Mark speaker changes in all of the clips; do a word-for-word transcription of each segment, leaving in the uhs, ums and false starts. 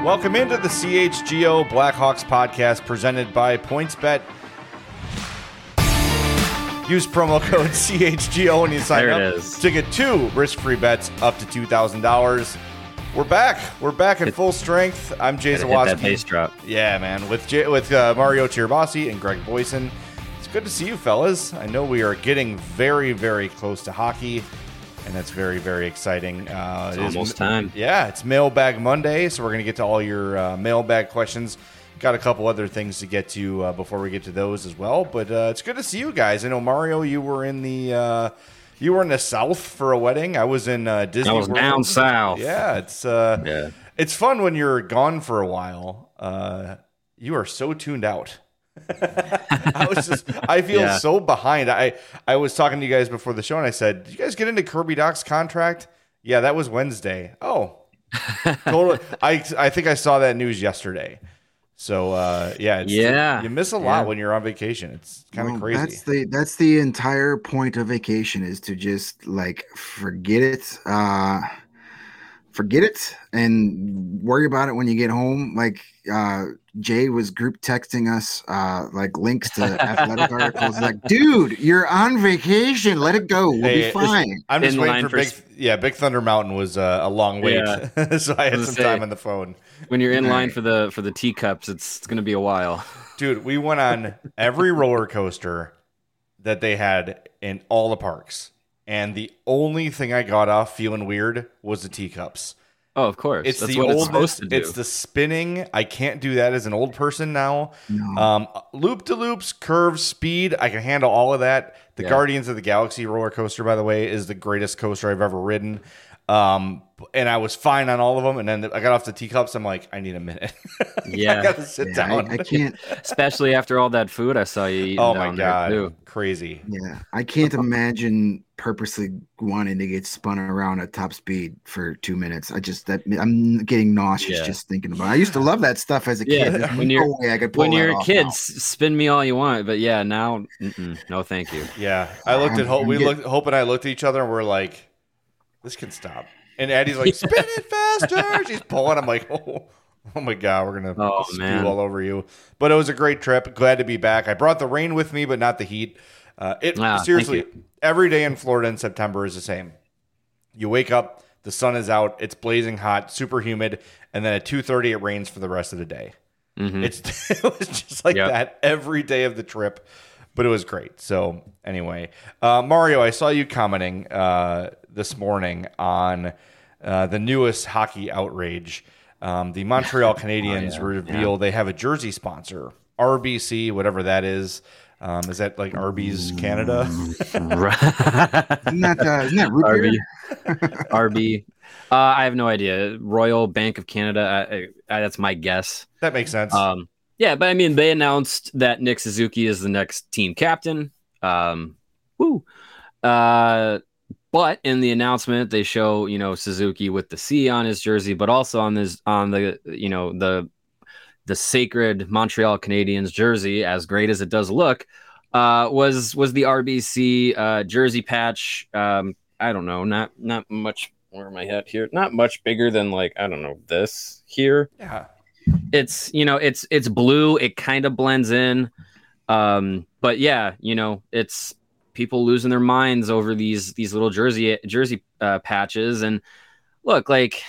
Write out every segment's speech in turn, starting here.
Speaker 1: Welcome into the C H G O Blackhawks podcast presented by PointsBet. Use promo code C H G O when you sign
Speaker 2: there
Speaker 1: up
Speaker 2: it is.
Speaker 1: to get two risk-free bets up to two thousand dollars. We're back. We're back at full strength. I'm Jay
Speaker 2: Hit
Speaker 1: Zawaski.
Speaker 2: that bass drop.
Speaker 1: Yeah, man. With Jay, with uh, Mario Tirabassi and Greg Boyson. It's good to see you, fellas. I know we are getting very, very close to hockey, and that's very, very exciting. Uh,
Speaker 2: It's
Speaker 1: it is
Speaker 2: almost time.
Speaker 1: Yeah, it's Mailbag Monday, so we're going to get to all your uh, mailbag questions. Got a couple other things to get to uh, before we get to those as well, but uh, it's good to see you guys. I know, Mario, you were in the uh, you were in the South for a wedding. I was in uh, Disney
Speaker 2: I was
Speaker 1: World.
Speaker 2: down south.
Speaker 1: Yeah, it's uh,
Speaker 2: Yeah.
Speaker 1: it's fun when you're gone for a while. Uh, you are so tuned out. I was just I feel
Speaker 2: Yeah.
Speaker 1: so behind. I I was talking to you guys before the show, and I said, "Did you guys get into Kirby Doc's contract?" Yeah, that was Wednesday. Oh, totally. I I think I saw that news yesterday. So uh, yeah, it's,
Speaker 2: Yeah.
Speaker 1: you miss a lot
Speaker 2: Yeah.
Speaker 1: when you're on vacation. It's kind of
Speaker 3: Well,
Speaker 1: crazy.
Speaker 3: That's the that's the entire point of vacation is to just like forget it, uh, forget it, and worry about it when you get home. Like uh, Jay was group texting us uh, like links to athletic articles. Like, dude, you're on vacation. Let it go. We'll
Speaker 1: Hey,
Speaker 3: be
Speaker 1: it's-
Speaker 3: fine.
Speaker 1: I'm just
Speaker 2: In
Speaker 1: waiting
Speaker 2: line
Speaker 1: for
Speaker 2: for
Speaker 1: Big.
Speaker 2: sp-
Speaker 1: Yeah, Big Thunder Mountain was uh, a long wait,
Speaker 2: Yeah.
Speaker 1: so I had
Speaker 2: I was
Speaker 1: some
Speaker 2: gonna
Speaker 1: time
Speaker 2: say.
Speaker 1: on the phone.
Speaker 2: When you're in
Speaker 3: Right.
Speaker 2: line for the for the teacups, it's, it's going to be a while.
Speaker 1: Dude, we went on every roller coaster that they had in all the parks. And the only thing I got off feeling weird was the teacups.
Speaker 2: Oh, of course.
Speaker 1: It's
Speaker 2: That's
Speaker 1: the
Speaker 2: what
Speaker 1: old,
Speaker 2: it's supposed to do.
Speaker 1: It's the spinning. I can't do that as an old person now.
Speaker 3: No.
Speaker 1: Um, loop to loops, curves, speed. I can handle all of that. The
Speaker 2: Yeah.
Speaker 1: Guardians of the Galaxy roller coaster, by the way, is the greatest coaster I've ever ridden. Um, and I was fine on all of them. And then I got off the teacups. I'm like, I need a minute.
Speaker 2: Yeah.
Speaker 1: I gotta sit
Speaker 3: Yeah,
Speaker 1: down.
Speaker 3: I, I can't.
Speaker 2: Especially after all that food I saw you eating
Speaker 1: Oh my
Speaker 2: down there,
Speaker 1: god,
Speaker 2: too.
Speaker 1: crazy.
Speaker 3: Yeah, I can't imagine purposely wanting to get spun around at top speed for two minutes. I just that I'm getting nauseous
Speaker 2: Yeah.
Speaker 3: just thinking about it. I used to love that stuff as a
Speaker 2: Yeah,
Speaker 3: kid. There's
Speaker 2: when
Speaker 3: no
Speaker 2: you're-
Speaker 3: way I could pull
Speaker 2: When
Speaker 3: that
Speaker 2: you're a
Speaker 3: off
Speaker 2: kid,
Speaker 3: now.
Speaker 2: s- spin me all you want. But yeah, now, mm-mm, no thank you.
Speaker 1: Yeah, I looked at
Speaker 3: I'm-
Speaker 1: Hope.
Speaker 3: I'm
Speaker 1: We
Speaker 3: get-
Speaker 1: looked. Hope and I looked at each other, and we're like, "This can stop." And Addie's like, "Spin it faster!" She's pulling. I'm like, "Oh, oh my god, we're gonna
Speaker 2: Oh,
Speaker 1: spew
Speaker 2: man.
Speaker 1: all over you." But it was a great trip. Glad to be back. I brought the rain with me, but not the heat. Uh, it
Speaker 2: Ah, thank
Speaker 1: seriously,
Speaker 2: you.
Speaker 1: every day in Florida in September is the same. You wake up, the sun is out, it's blazing hot, super humid, and then at two thirty it rains for the rest of the day.
Speaker 2: Mhm.
Speaker 1: It's it was just like
Speaker 2: Yep.
Speaker 1: that every day of the trip, but it was great. So anyway, uh, Mario, I saw you commenting uh, this morning on uh, the newest hockey outrage. Um, the Montreal Canadiens
Speaker 2: yeah.
Speaker 1: reveal they have a jersey sponsor, R B C, whatever that is. Um, is that like Arby's Canada?
Speaker 3: Isn't that uh, isn't that root
Speaker 2: R
Speaker 3: beer?
Speaker 2: B. R B. Uh, I have no idea. Royal Bank of Canada. I, I, that's my guess.
Speaker 1: That makes sense.
Speaker 2: Um, yeah, but I mean, they announced that Nick Suzuki is the next team captain. Um, woo. Uh, but in the announcement, they show you know Suzuki with the C on his jersey, but also on this on the you know the the sacred Montreal Canadiens jersey, as great as it does look, uh, was was the R B C uh, jersey patch. Um, I don't know, not not much. Where am I at here? Not much bigger than like I don't know this here.
Speaker 1: yeah.
Speaker 2: It's you know it's it's blue. It kind of blends in, um, but yeah, you know it's people losing their minds over these these little jersey jersey uh, patches. And look, like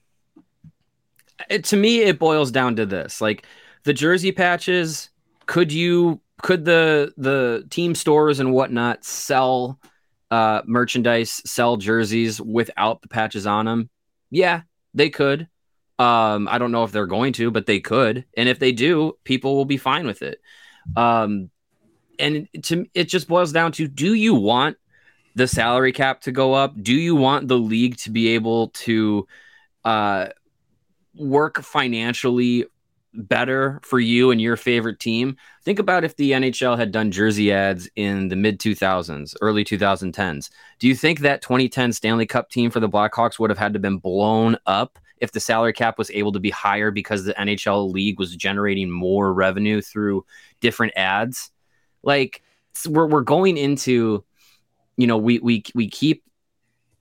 Speaker 2: it, to me, it boils down to this: like the jersey patches. Could you could the the team stores and whatnot sell uh, merchandise, sell jerseys without the patches on them? Yeah, they could. Um, I don't know if they're going to, but they could. And if they do, people will be fine with it. Um, and to it just boils down to, do you want the salary cap to go up? Do you want the league to be able to uh, work financially better for you and your favorite team? Think about if the N H L had done jersey ads in the mid two thousands, early twenty tens. Do you think that twenty ten Stanley Cup team for the Blackhawks would have had to been blown up if the salary cap was able to be higher because the N H L league was generating more revenue through different ads? Like we're we're going into, you know, we we we keep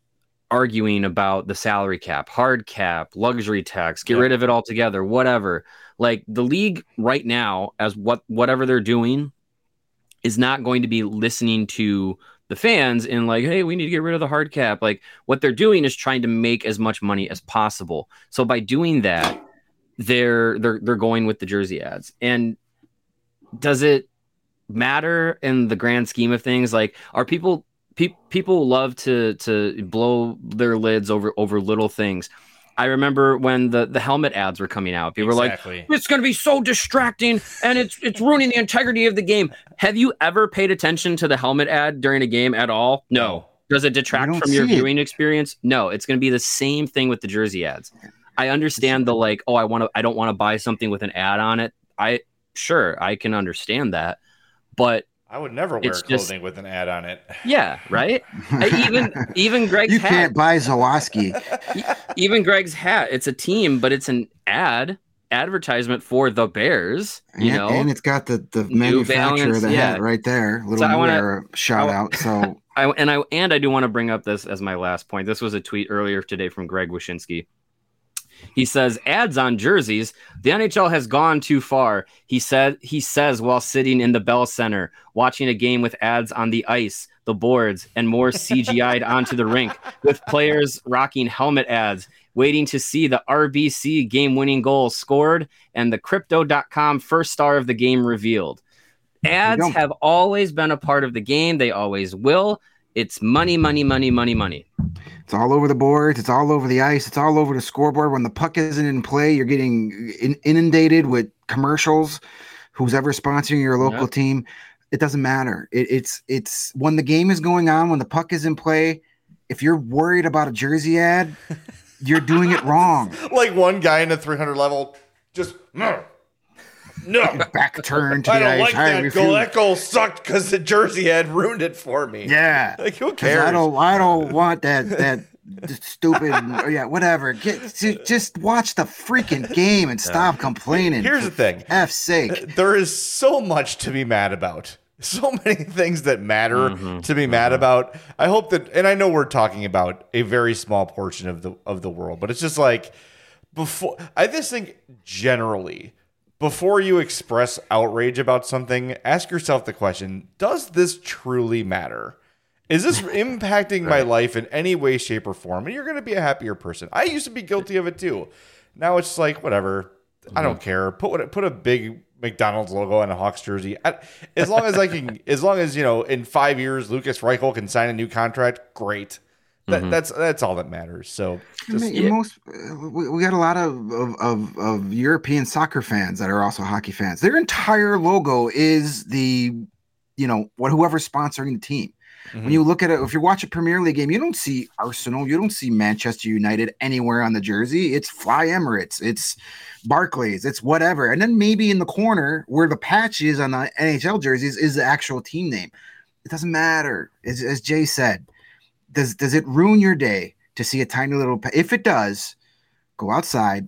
Speaker 2: arguing about the salary cap, hard cap, luxury tax, get
Speaker 1: Yep.
Speaker 2: rid of it altogether, whatever. Like the league right now, as what whatever they're doing, is not going to be listening to the fans and like, hey, we need to get rid of the hard cap. Like what they're doing is trying to make as much money as possible. So by doing that, they're they're they're going with the jersey ads. And does it matter in the grand scheme of things? Like, are people pe- people love to to blow their lids over over little things? I remember when the, the helmet ads were coming out. People
Speaker 1: Exactly.
Speaker 2: were like, it's going to be so distracting and it's it's ruining the integrity of the game. Have you ever paid attention to the helmet ad during a game at all? No. Does it detract from your viewing it. experience? No. It's going to be the same thing with the jersey ads. I understand the like, oh, I want to, I don't want to buy something with an ad on it. I sure I can understand that, but
Speaker 1: I would never wear
Speaker 2: It's
Speaker 1: clothing
Speaker 2: just-
Speaker 1: with an ad on it.
Speaker 2: yeah, right. I- even even Greg's
Speaker 3: You
Speaker 2: hat,
Speaker 3: can't buy Zawoski.
Speaker 2: even Greg's hat. It's a team, but it's an ad advertisement for the Bears. You
Speaker 3: and,
Speaker 2: know,
Speaker 3: and it's got the, the
Speaker 2: New
Speaker 3: manufacturer
Speaker 2: Balance,
Speaker 3: of the
Speaker 2: yeah.
Speaker 3: hat right there. Little
Speaker 2: So I
Speaker 3: New
Speaker 2: wanna-
Speaker 3: Era shout
Speaker 2: I-
Speaker 3: out. So
Speaker 2: I and I and I do want to bring up this as my last point. This was a tweet earlier today from Greg Wyshynski. He says ads on jerseys. The N H L has gone too far. He said he says while sitting in the Bell Center watching a game with ads on the ice, the boards, and more C G I'd onto the rink with players rocking helmet ads, waiting to see the R B C game-winning goal scored and the crypto dot com first star of the game revealed. Ads
Speaker 3: don't-
Speaker 2: have always been a part of the game. They always will. It's money, money, money, money, money.
Speaker 3: it's all over the boards. It's all over the ice. It's all over the scoreboard. When the puck isn't in play, you're getting in, inundated with commercials. Who's ever sponsoring your local
Speaker 2: Yep.
Speaker 3: team, it doesn't matter. It, it's it's when the game is going on, when the puck is in play. If you're worried about a jersey ad, you're doing it wrong.
Speaker 1: Like one guy in the three hundred level just no. No.
Speaker 3: Back turn to
Speaker 1: I
Speaker 3: the
Speaker 1: don't
Speaker 3: ice.
Speaker 1: like
Speaker 3: I
Speaker 1: that
Speaker 3: refuse.
Speaker 1: goal. That goal sucked because the jersey ad ruined it for me.
Speaker 3: Yeah.
Speaker 1: Like who
Speaker 3: 'Cause
Speaker 1: cares?
Speaker 3: I don't. I don't want that. That stupid. Yeah. Whatever. Get to, just watch the freaking game and stop complaining.
Speaker 1: Here's the
Speaker 3: for
Speaker 1: thing.
Speaker 3: F's sake.
Speaker 1: There is so much to be mad about. So many things that matter
Speaker 2: Mm-hmm.
Speaker 1: to be mad about. I hope that, and I know we're talking about a very small portion of the of the world, but it's just like before. I just think generally, before you express outrage about something, ask yourself the question: does this truly matter? Is this impacting my life in any way, shape, or form? And you're going to be a happier person. I used to be guilty of it too. Now it's like whatever. I don't care. Put what put a big McDonald's logo on a Hawks jersey. I, as long as I can, as long as you know, in five years, Lucas Reichel can sign a new contract. Great. That, That's that's all that matters. So
Speaker 3: I
Speaker 1: just,
Speaker 3: mean, most uh, we, we got a lot of, of of of European soccer fans that are also hockey fans. Their entire logo is the, you know, what whoever's sponsoring the team.
Speaker 1: Mhm.
Speaker 3: When you look at it, if you watch a Premier League game, you don't see Arsenal, you don't see Manchester United anywhere on the jersey. It's Fly Emirates, it's Barclays, it's whatever. And then maybe in the corner where the patch is on the N H L jerseys is the actual team name. It doesn't matter. As, as Jay said, does does it ruin your day to see a tiny little? Pa- if it does, go outside.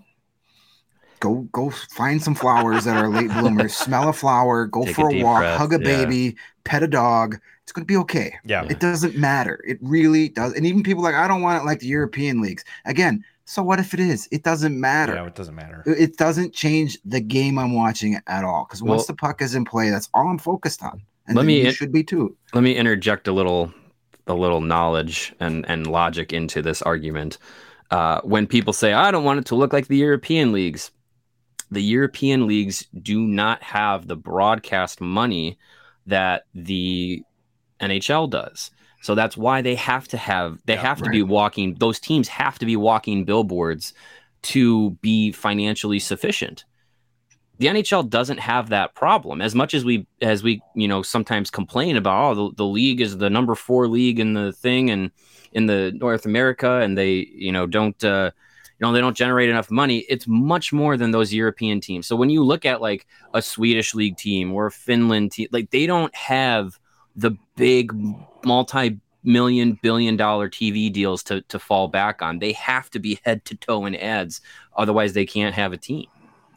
Speaker 3: Go go find some flowers that are late bloomers. Smell a flower. Go
Speaker 2: Take
Speaker 3: for
Speaker 2: a
Speaker 3: a,
Speaker 2: deep
Speaker 3: walk.
Speaker 2: breath,
Speaker 3: Hug a
Speaker 2: yeah.
Speaker 3: baby. Pet a dog. It's going to be okay.
Speaker 1: yeah.
Speaker 3: It doesn't matter. It really does. And even people like, I don't want it like the European leagues. Again, so what if it is? It doesn't matter.
Speaker 1: Yeah, it doesn't matter.
Speaker 3: It it doesn't change the game I'm watching at all. Because once
Speaker 2: Well-
Speaker 3: the puck is in play, that's all I'm focused on. And
Speaker 2: Let
Speaker 3: then
Speaker 2: me
Speaker 3: you
Speaker 2: in-
Speaker 3: should be too.
Speaker 2: Let me interject a little a little knowledge and, and logic into this argument. Uh, when people say, I don't want it to look like the European leagues, the European leagues do not have the broadcast money that the N H L does. So that's why they have to have, they
Speaker 1: Yeah,
Speaker 2: have to
Speaker 3: right.
Speaker 2: be walking, those teams have to be walking billboards to be financially sufficient. The N H L doesn't have that problem. As much as we, as we, you know, sometimes complain about, oh, the, the league is the number four league in the thing and in the North America, and they, you know, don't, uh, you know, they don't generate enough money. It's much more than those European teams. So when you look at like a Swedish league team or a Finland team, like they don't have the big multi-million billion dollar T V deals to, to fall back on. They have to be head to toe in ads. Otherwise they can't have a team.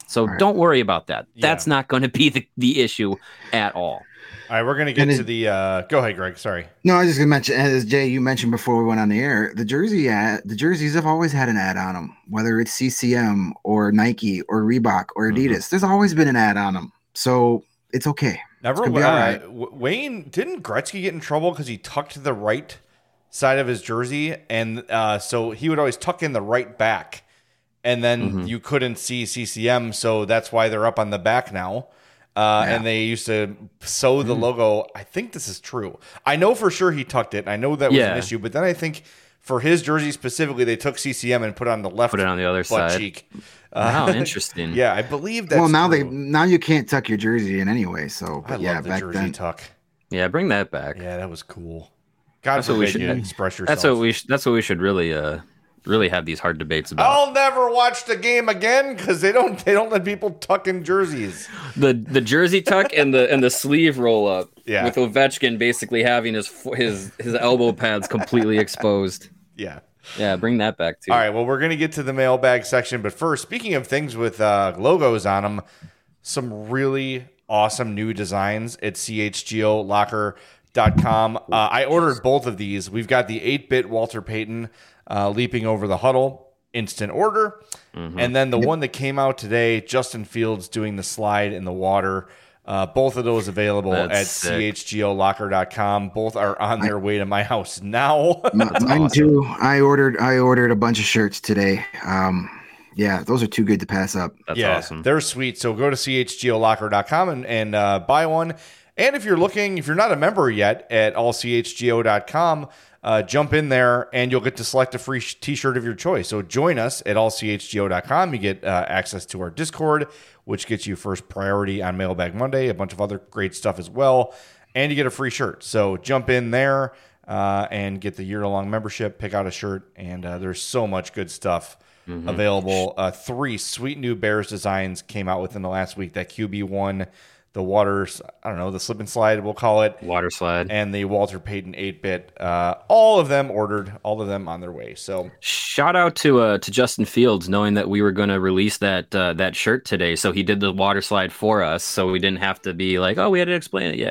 Speaker 2: So
Speaker 3: right.
Speaker 2: don't worry about that.
Speaker 1: Yeah.
Speaker 2: That's not going to be the, the issue at all.
Speaker 1: All right, we're going to get
Speaker 3: And
Speaker 1: to
Speaker 3: it-
Speaker 1: the uh, – go ahead, Greg. Sorry.
Speaker 3: No, I was just gonna mention, as Jay, you mentioned before we went on the air, the jersey ad, the jerseys have always had an ad on them, whether it's C C M or Nike or Reebok or Adidas.
Speaker 2: Mhm.
Speaker 3: There's always been an ad on them, so it's okay.
Speaker 1: Never,
Speaker 3: It's gonna be
Speaker 1: uh,
Speaker 3: all right.
Speaker 1: W- Wayne, didn't Gretzky get in trouble because he tucked the right side of his jersey? And uh, so he would always tuck in the right back. And then
Speaker 2: Mhm.
Speaker 1: you couldn't see C C M, so that's why they're up on the back now. Uh,
Speaker 3: Yeah.
Speaker 1: And they used to sew the logo. I think this is true. I know for sure he tucked it. I know that was
Speaker 2: Yeah.
Speaker 1: an issue. But then I think for his jersey specifically, they took C C M and put it on the left
Speaker 2: Put it on the other
Speaker 1: butt
Speaker 2: side.
Speaker 1: cheek.
Speaker 2: Wow, interesting.
Speaker 1: Yeah, I believe that's
Speaker 3: Well, now they
Speaker 1: true.
Speaker 3: now you can't tuck your jersey in anyway. So,
Speaker 1: I
Speaker 3: but yeah,
Speaker 1: love the
Speaker 3: back
Speaker 1: jersey
Speaker 3: then,
Speaker 1: tuck.
Speaker 2: Yeah, bring that back.
Speaker 1: Yeah, that was cool. God
Speaker 2: That's what we
Speaker 1: forbid
Speaker 2: should
Speaker 1: you
Speaker 2: do.
Speaker 1: express yourself.
Speaker 2: That's what we. Sh- that's what we should really, uh, really have these hard debates about.
Speaker 1: I'll never watch the game again because they don't they don't let people tuck in jerseys.
Speaker 2: The the jersey tuck and the and the sleeve roll up.
Speaker 1: Yeah.
Speaker 2: With Ovechkin basically having his fo- his his elbow pads completely exposed.
Speaker 1: Yeah.
Speaker 2: Yeah, bring that back too.
Speaker 1: All right. Well, we're gonna get to the mailbag section, but first, speaking of things with uh, logos on them, some really awesome new designs at C H G O locker dot com. Uh, I ordered both of these. We've got the eight-bit Walter Payton uh, leaping over the huddle, instant order.
Speaker 2: Mm-hmm.
Speaker 1: And then the one that came out today, Justin Fields doing the slide in the water. Uh, both of those available
Speaker 2: That's
Speaker 1: at
Speaker 2: sick.
Speaker 1: C H G O locker dot com. Both are on their way to my house now.
Speaker 3: M- mine too. I ordered I ordered a bunch of shirts today. Um, yeah, those are too good to pass up.
Speaker 2: That's
Speaker 1: yeah,
Speaker 2: awesome.
Speaker 1: they're sweet. So go to C H G O locker dot com and, and uh, buy one. And if you're looking, if you're not a member yet at all C H G O dot com, uh, jump in there and you'll get to select a free sh- t-shirt of your choice. So join us at all C H G O dot com. You get uh, access to our Discord, which gets you first priority on Mailbag Monday, a bunch of other great stuff as well. And you get a free shirt. So jump in there uh, and get the year-long membership, pick out a shirt, and uh, there's so much good stuff
Speaker 2: Mm-hmm.
Speaker 1: available. Uh, three sweet new Bears designs came out within the last week. That Q B one, the water, I don't know, the slip and slide, we'll call it,
Speaker 2: Water slide.
Speaker 1: and the Walter Payton eight-bit. Uh, all of them ordered, all of them on their way. So
Speaker 2: Shout out to uh, to Justin Fields, knowing that we were going to release that uh, that shirt today, so he did the water slide for us, so we didn't have to be like, oh, we had to explain it. Yeah.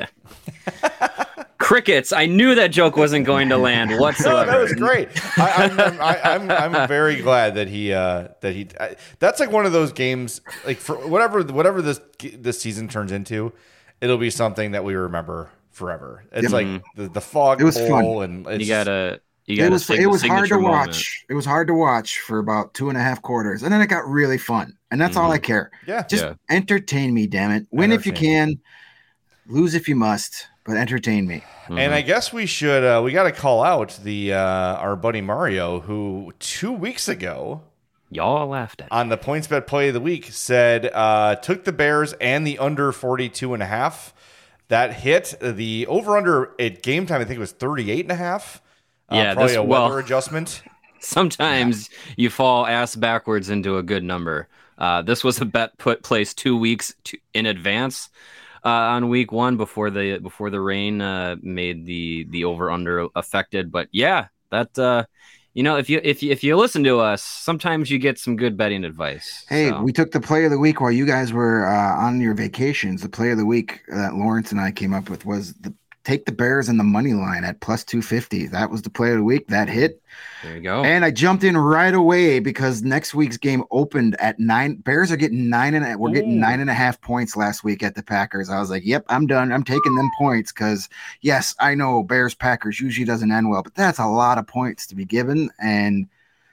Speaker 2: Crickets. I knew that joke wasn't going to land
Speaker 1: no,
Speaker 2: whatsoever.
Speaker 1: that was great. I, I'm, I'm, I, I'm, I'm very glad that he uh, that he. I, that's like one of those games. Like for whatever whatever this this season turns into, it'll be something that we remember forever. It's
Speaker 3: Yep.
Speaker 1: like the, the fog
Speaker 3: It was
Speaker 1: bowl,
Speaker 3: fun.
Speaker 1: and it's
Speaker 2: You gotta, you
Speaker 3: It
Speaker 2: gotta.
Speaker 3: was
Speaker 2: sig-
Speaker 3: it was hard to
Speaker 2: signature
Speaker 3: watch.
Speaker 2: moment.
Speaker 3: It was hard to watch for about two and a half quarters, and then it got really fun. And that's all I care.
Speaker 1: yeah,
Speaker 3: Just
Speaker 2: Yeah.
Speaker 3: entertain me, damn it. Win if you
Speaker 1: Entertain.
Speaker 3: can, lose if you must, but entertain me.
Speaker 1: And I guess we should uh, we got to call out the uh, our buddy Mario, who two weeks ago
Speaker 2: Y'all laughed at.
Speaker 1: on the points bet play of the week said uh, took the Bears and the under forty-two and a half. That hit the over under at game time. I think it was thirty-eight and a half. Uh,
Speaker 2: Yeah,
Speaker 1: probably
Speaker 2: this-
Speaker 1: a weather
Speaker 2: well-
Speaker 1: adjustment.
Speaker 2: Sometimes you fall ass backwards into a good number. Uh, this was a bet put placed two weeks to, in advance uh, on week one before the before the rain uh, made the the over under affected. But yeah, that uh, you know if you if you if you listen to us, sometimes you get some good betting advice.
Speaker 3: Hey,
Speaker 2: So,
Speaker 3: we took the play of the week while you guys were uh, on your vacations. The play of the week that Lawrence and I came up with was the take the Bears and the money line at plus two fifty. That was the play of the week. That hit.
Speaker 2: there you go.
Speaker 3: And I jumped in right away because next week's game opened at nine. Bears are getting nine and a, we're getting
Speaker 1: Ooh.
Speaker 3: nine and a half points last week at the Packers. I was like, yep, I'm done. I'm taking them points because yes, I know Bears Packers usually doesn't end well, but that's a lot of points to be given. And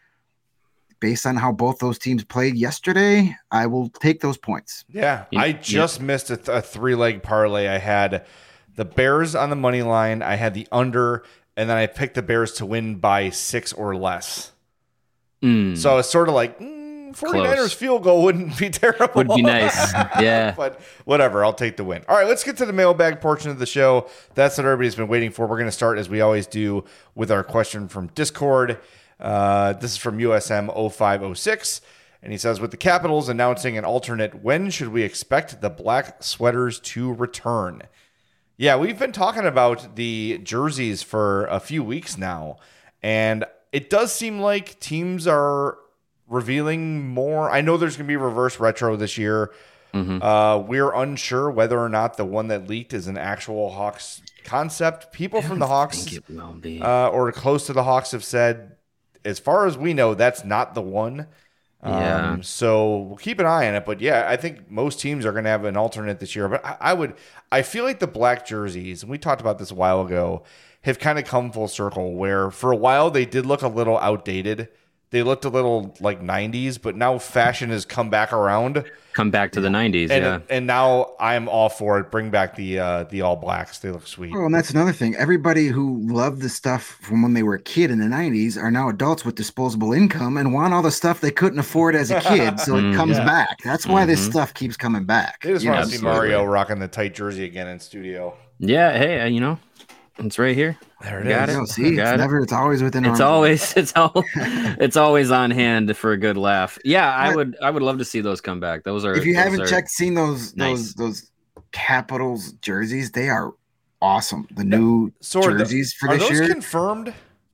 Speaker 3: based on how both those teams played yesterday, I will take those points.
Speaker 1: Yeah,
Speaker 2: You-
Speaker 1: I
Speaker 2: you-
Speaker 1: just missed a, th- a three leg parlay. I had the Bears on the money line. I had the under, and then I picked the Bears to win by six or less.
Speaker 2: Mm,
Speaker 1: So it's sort of like mm, 49ers
Speaker 2: Close.
Speaker 1: field goal wouldn't be terrible.
Speaker 2: would be nice. Yeah.
Speaker 1: But whatever, I'll take the win. All right, let's get to the mailbag portion of the show. That's what everybody's been waiting for. We're going to start, as we always do, with our question from Discord. Uh, this is from U S M oh five oh six. And he says, with the Capitals announcing an alternate, when should we expect the black sweaters to return? Yeah, we've been talking about the jerseys for a few weeks now. And it does seem like teams are revealing more. I know there's going to be reverse retro this year.
Speaker 2: Mm-hmm.
Speaker 1: Uh, we're unsure whether or not the one that leaked is an actual Hawks concept. People from the Hawks
Speaker 2: think it will be.
Speaker 1: Uh, or close to the Hawks have said, as far as we know, that's not the one. Um,
Speaker 2: Yeah.
Speaker 1: So we'll keep an eye on it. But yeah, I think most teams are going to have an alternate this year. But I, I would, I feel like the black jerseys, and we talked about this a while ago, have kind of come full circle where for a while they did look a little outdated. They looked a little like nineties, but now fashion has come back around.
Speaker 2: Come back to the nineties,
Speaker 1: And
Speaker 2: yeah.
Speaker 1: and now I'm all for it. Bring back the uh, the all blacks. They look sweet.
Speaker 3: Oh, and that's another thing. Everybody who loved the stuff from when they were a kid in the nineties are now adults with disposable income and want all the stuff they couldn't afford as a kid. So it comes
Speaker 1: Yeah.
Speaker 3: back. That's why this
Speaker 2: Mhm.
Speaker 3: stuff keeps coming back.
Speaker 1: They just
Speaker 3: You
Speaker 1: want
Speaker 3: know,
Speaker 1: to see
Speaker 2: Absolutely.
Speaker 1: Mario rocking the tight jersey again in studio.
Speaker 2: Yeah, hey, uh, you know, it's right here.
Speaker 1: There it
Speaker 2: Got
Speaker 1: is.
Speaker 2: it.
Speaker 3: no, see,
Speaker 2: Got
Speaker 3: it's
Speaker 2: it.
Speaker 3: never. It's always within.
Speaker 2: It's
Speaker 3: arm's
Speaker 2: always it's all it's always on hand for a good laugh. Yeah, I
Speaker 3: But-
Speaker 2: would I would love to see those come back. Those are
Speaker 3: If you
Speaker 2: those
Speaker 3: haven't
Speaker 2: are-
Speaker 3: checked, seen those
Speaker 2: nice.
Speaker 3: those those Capitals jerseys, they are awesome. The new
Speaker 1: So are, the,
Speaker 3: jerseys for
Speaker 1: are
Speaker 3: this
Speaker 1: those
Speaker 3: year,
Speaker 1: confirmed?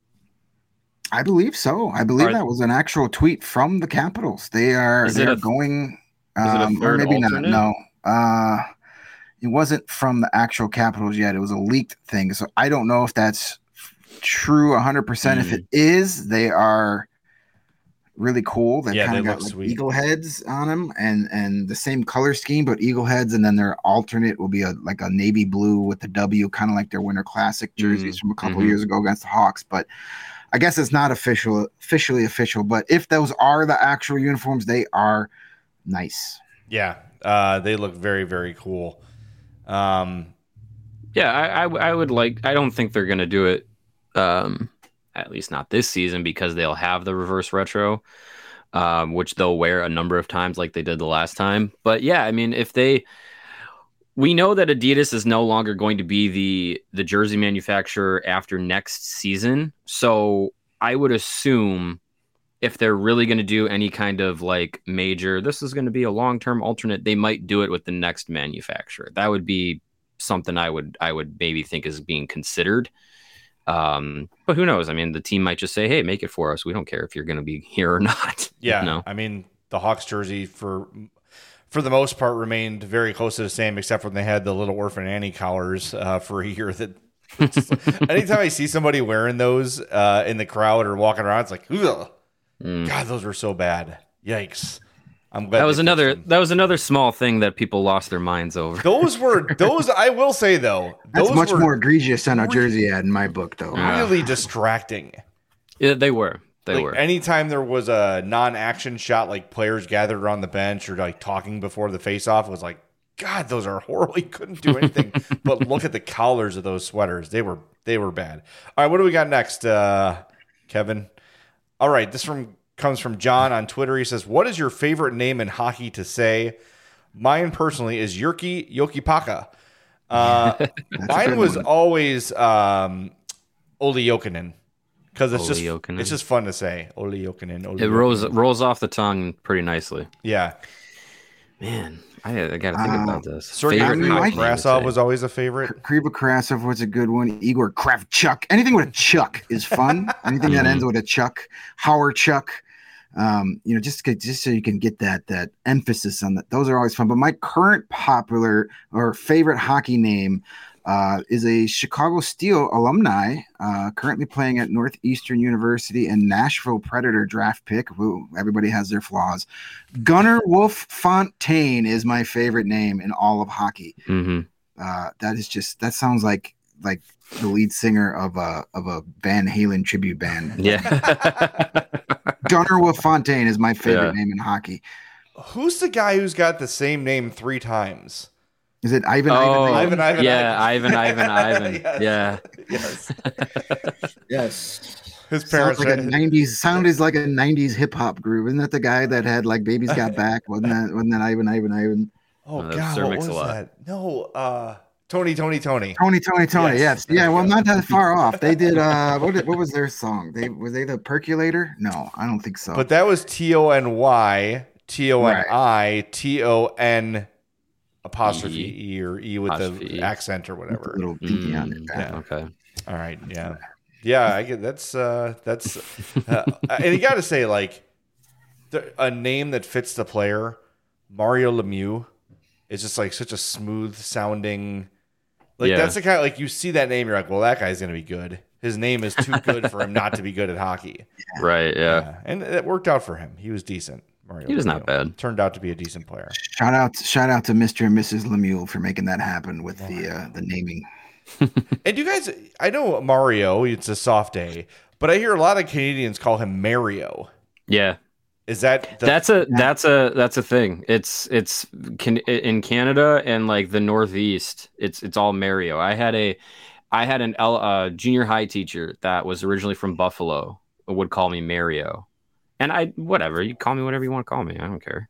Speaker 3: I believe so. I believe
Speaker 2: Are-
Speaker 3: that was an actual tweet from the Capitals. They are
Speaker 2: Is
Speaker 3: they
Speaker 2: it
Speaker 3: are
Speaker 2: a-
Speaker 3: going,
Speaker 2: is it a
Speaker 3: um, or
Speaker 2: third
Speaker 3: maybe
Speaker 2: alternate?
Speaker 3: not. No, uh, it wasn't from the actual Capitals yet. It was a leaked thing, so I don't know if that's true one hundred percent. If
Speaker 2: Mm.
Speaker 3: it is, they are really cool. They
Speaker 1: Yeah,
Speaker 3: kind
Speaker 1: they
Speaker 3: of got
Speaker 1: look
Speaker 3: like
Speaker 1: sweet.
Speaker 3: eagle heads on them, and and the same color scheme, but eagle heads, and then their alternate will be a like a navy blue with the W, kind of like their Winter Classic jerseys
Speaker 2: Mm.
Speaker 3: from a couple
Speaker 2: Mhm.
Speaker 3: years ago against the Hawks. But I guess it's not official, officially official. But if those are the actual uniforms, they are nice.
Speaker 1: Yeah, uh, they look very very cool. Um,
Speaker 2: Yeah, I, I w- I would like. I don't think they're gonna do it, um, at least not this season, because they'll have the reverse retro, um, which they'll wear a number of times, like they did the last time. But yeah, I mean, if they, we know that Adidas is no longer going to be the the jersey manufacturer after next season, so I would assume if they're really going to do any kind of like major, this is going to be a long term alternate, they might do it with the next manufacturer. That would be something I would I would maybe think is being considered. Um, but who knows? I mean, the team might just say, "Hey, make it for us. We don't care if you're going to be here or not."
Speaker 1: yeah,
Speaker 2: no.
Speaker 1: I mean the Hawks jersey for for the most part remained very close to the same, except when they had the little orphan Annie collars uh, for a year. That anytime I see somebody wearing those uh, in the crowd or walking around, it's like, ugh.
Speaker 2: Mm.
Speaker 1: God, those were so bad. Yikes! I'm glad
Speaker 2: That was
Speaker 1: they fixed
Speaker 2: another
Speaker 1: them.
Speaker 2: that was another small thing that people lost their minds over.
Speaker 1: Those were those. I will say though,
Speaker 3: That's
Speaker 1: those
Speaker 3: much
Speaker 1: were
Speaker 3: more egregious than a jersey ad in my book, though.
Speaker 2: Yeah.
Speaker 1: really distracting.
Speaker 2: Yeah, they were. They
Speaker 1: Like
Speaker 2: were.
Speaker 1: anytime there was a non-action shot, like players gathered around the bench or like talking before the face-off, it was like, God, those are horrible. You couldn't do anything but look at the collars of those sweaters. They were they were bad. All right, what do we got next, uh, Kevin? All right, this from comes from John on Twitter. He says, "What is your favorite name in hockey to say?" Mine personally is Jyrki Jokipaka. Uh,
Speaker 3: That's a
Speaker 1: mine
Speaker 3: good
Speaker 1: was
Speaker 3: one.
Speaker 1: always um, Olli Jokinen. Because it's just
Speaker 2: Olli Jokinen.
Speaker 1: it's just fun to say. Olli Jokinen. Olli
Speaker 2: It rolls
Speaker 1: Jokinen.
Speaker 2: rolls off the tongue pretty nicely.
Speaker 1: Yeah.
Speaker 2: Man, I, I got to think
Speaker 3: Uh,
Speaker 2: about this.
Speaker 1: Sergei
Speaker 3: I mean,
Speaker 2: hockey name to
Speaker 1: Krasov
Speaker 2: say.
Speaker 1: was always a favorite.
Speaker 3: Kriva Krasov was a good one. Igor Kravchuk. Anything with a Chuck is fun. Anything that
Speaker 2: Mhm.
Speaker 3: ends with a Chuck. Howard Chuck. Um, you know, just to- just so you can get that that emphasis on that. Those are always fun. But my current popular or favorite hockey name uh, is a Chicago Steel alumni, uh, currently playing at Northeastern University and Nashville Predator draft pick. Woo, everybody has their flaws. Gunnar Wolf Fontaine is my favorite name in all of hockey.
Speaker 2: Mhm.
Speaker 3: Uh, that is just that sounds like like the lead singer of a of a Van Halen tribute band.
Speaker 2: Yeah.
Speaker 3: Gunnar Wolf Fontaine is my favorite
Speaker 2: Yeah.
Speaker 3: name in hockey.
Speaker 1: Who's the guy who's got the same name three times?
Speaker 3: Is it Ivan?
Speaker 2: Oh,
Speaker 3: Ivan,
Speaker 1: Ivan, Ivan,
Speaker 2: yeah, Ivan, Ivan, Ivan.
Speaker 1: Yes.
Speaker 2: Yeah.
Speaker 1: Yes.
Speaker 3: Yes.
Speaker 1: His
Speaker 3: Sounds
Speaker 1: parents
Speaker 3: like a
Speaker 1: had-
Speaker 3: nineties sounded like a nineties hip hop group. Isn't that the guy that had like Baby's Got Back? Wasn't that wasn't that Ivan Ivan Ivan?
Speaker 1: Oh
Speaker 2: Uh,
Speaker 1: God,
Speaker 2: Sir
Speaker 1: what was
Speaker 2: Mix-a-Lot.
Speaker 1: that? No, uh, Tony, Tony, Tony.
Speaker 3: Tony Tony Tony.
Speaker 1: Yes.
Speaker 3: Yes. Yeah, well not that far off. They did uh what did, what was their song? They were they the Percolator? No, I don't think so.
Speaker 1: But that was T O N Y T O N I T O N apostrophe
Speaker 2: E.
Speaker 1: E or E with
Speaker 2: Apostrophe
Speaker 1: the
Speaker 2: E.
Speaker 1: accent or
Speaker 3: With
Speaker 1: whatever.
Speaker 3: the little dinky on
Speaker 2: Mm,
Speaker 3: it.
Speaker 1: yeah.
Speaker 2: Okay.
Speaker 1: All right, yeah, yeah. I get that's uh, that's, uh, and you got to say like the, a name that fits the player, Mario Lemieux, is just like such a smooth sounding. Like,
Speaker 2: Yeah.
Speaker 1: that's the kind of, like, you see that name, you're like, well, that guy's going to be good. His name is too good for him not to be good at hockey.
Speaker 2: Right. Yeah.
Speaker 1: Yeah. And it worked out for him. He was decent. Mario
Speaker 2: He was
Speaker 1: Lemieux.
Speaker 2: not bad.
Speaker 1: Turned out to be a decent player.
Speaker 3: Shout out, shout out to Mister and Missus Lemieux for making that happen with the uh, the naming.
Speaker 1: And you guys, I know Mario, it's a soft A, but I hear a lot of Canadians call him Mario.
Speaker 2: Yeah.
Speaker 1: Is that the,
Speaker 2: That's a that's a that's a thing. It's it's can, in Canada and like the Northeast. It's it's all Mario. I had a I had an L, uh, junior high teacher that was originally from Buffalo. Would call me Mario, and I whatever you call me whatever you want to call me. I don't care.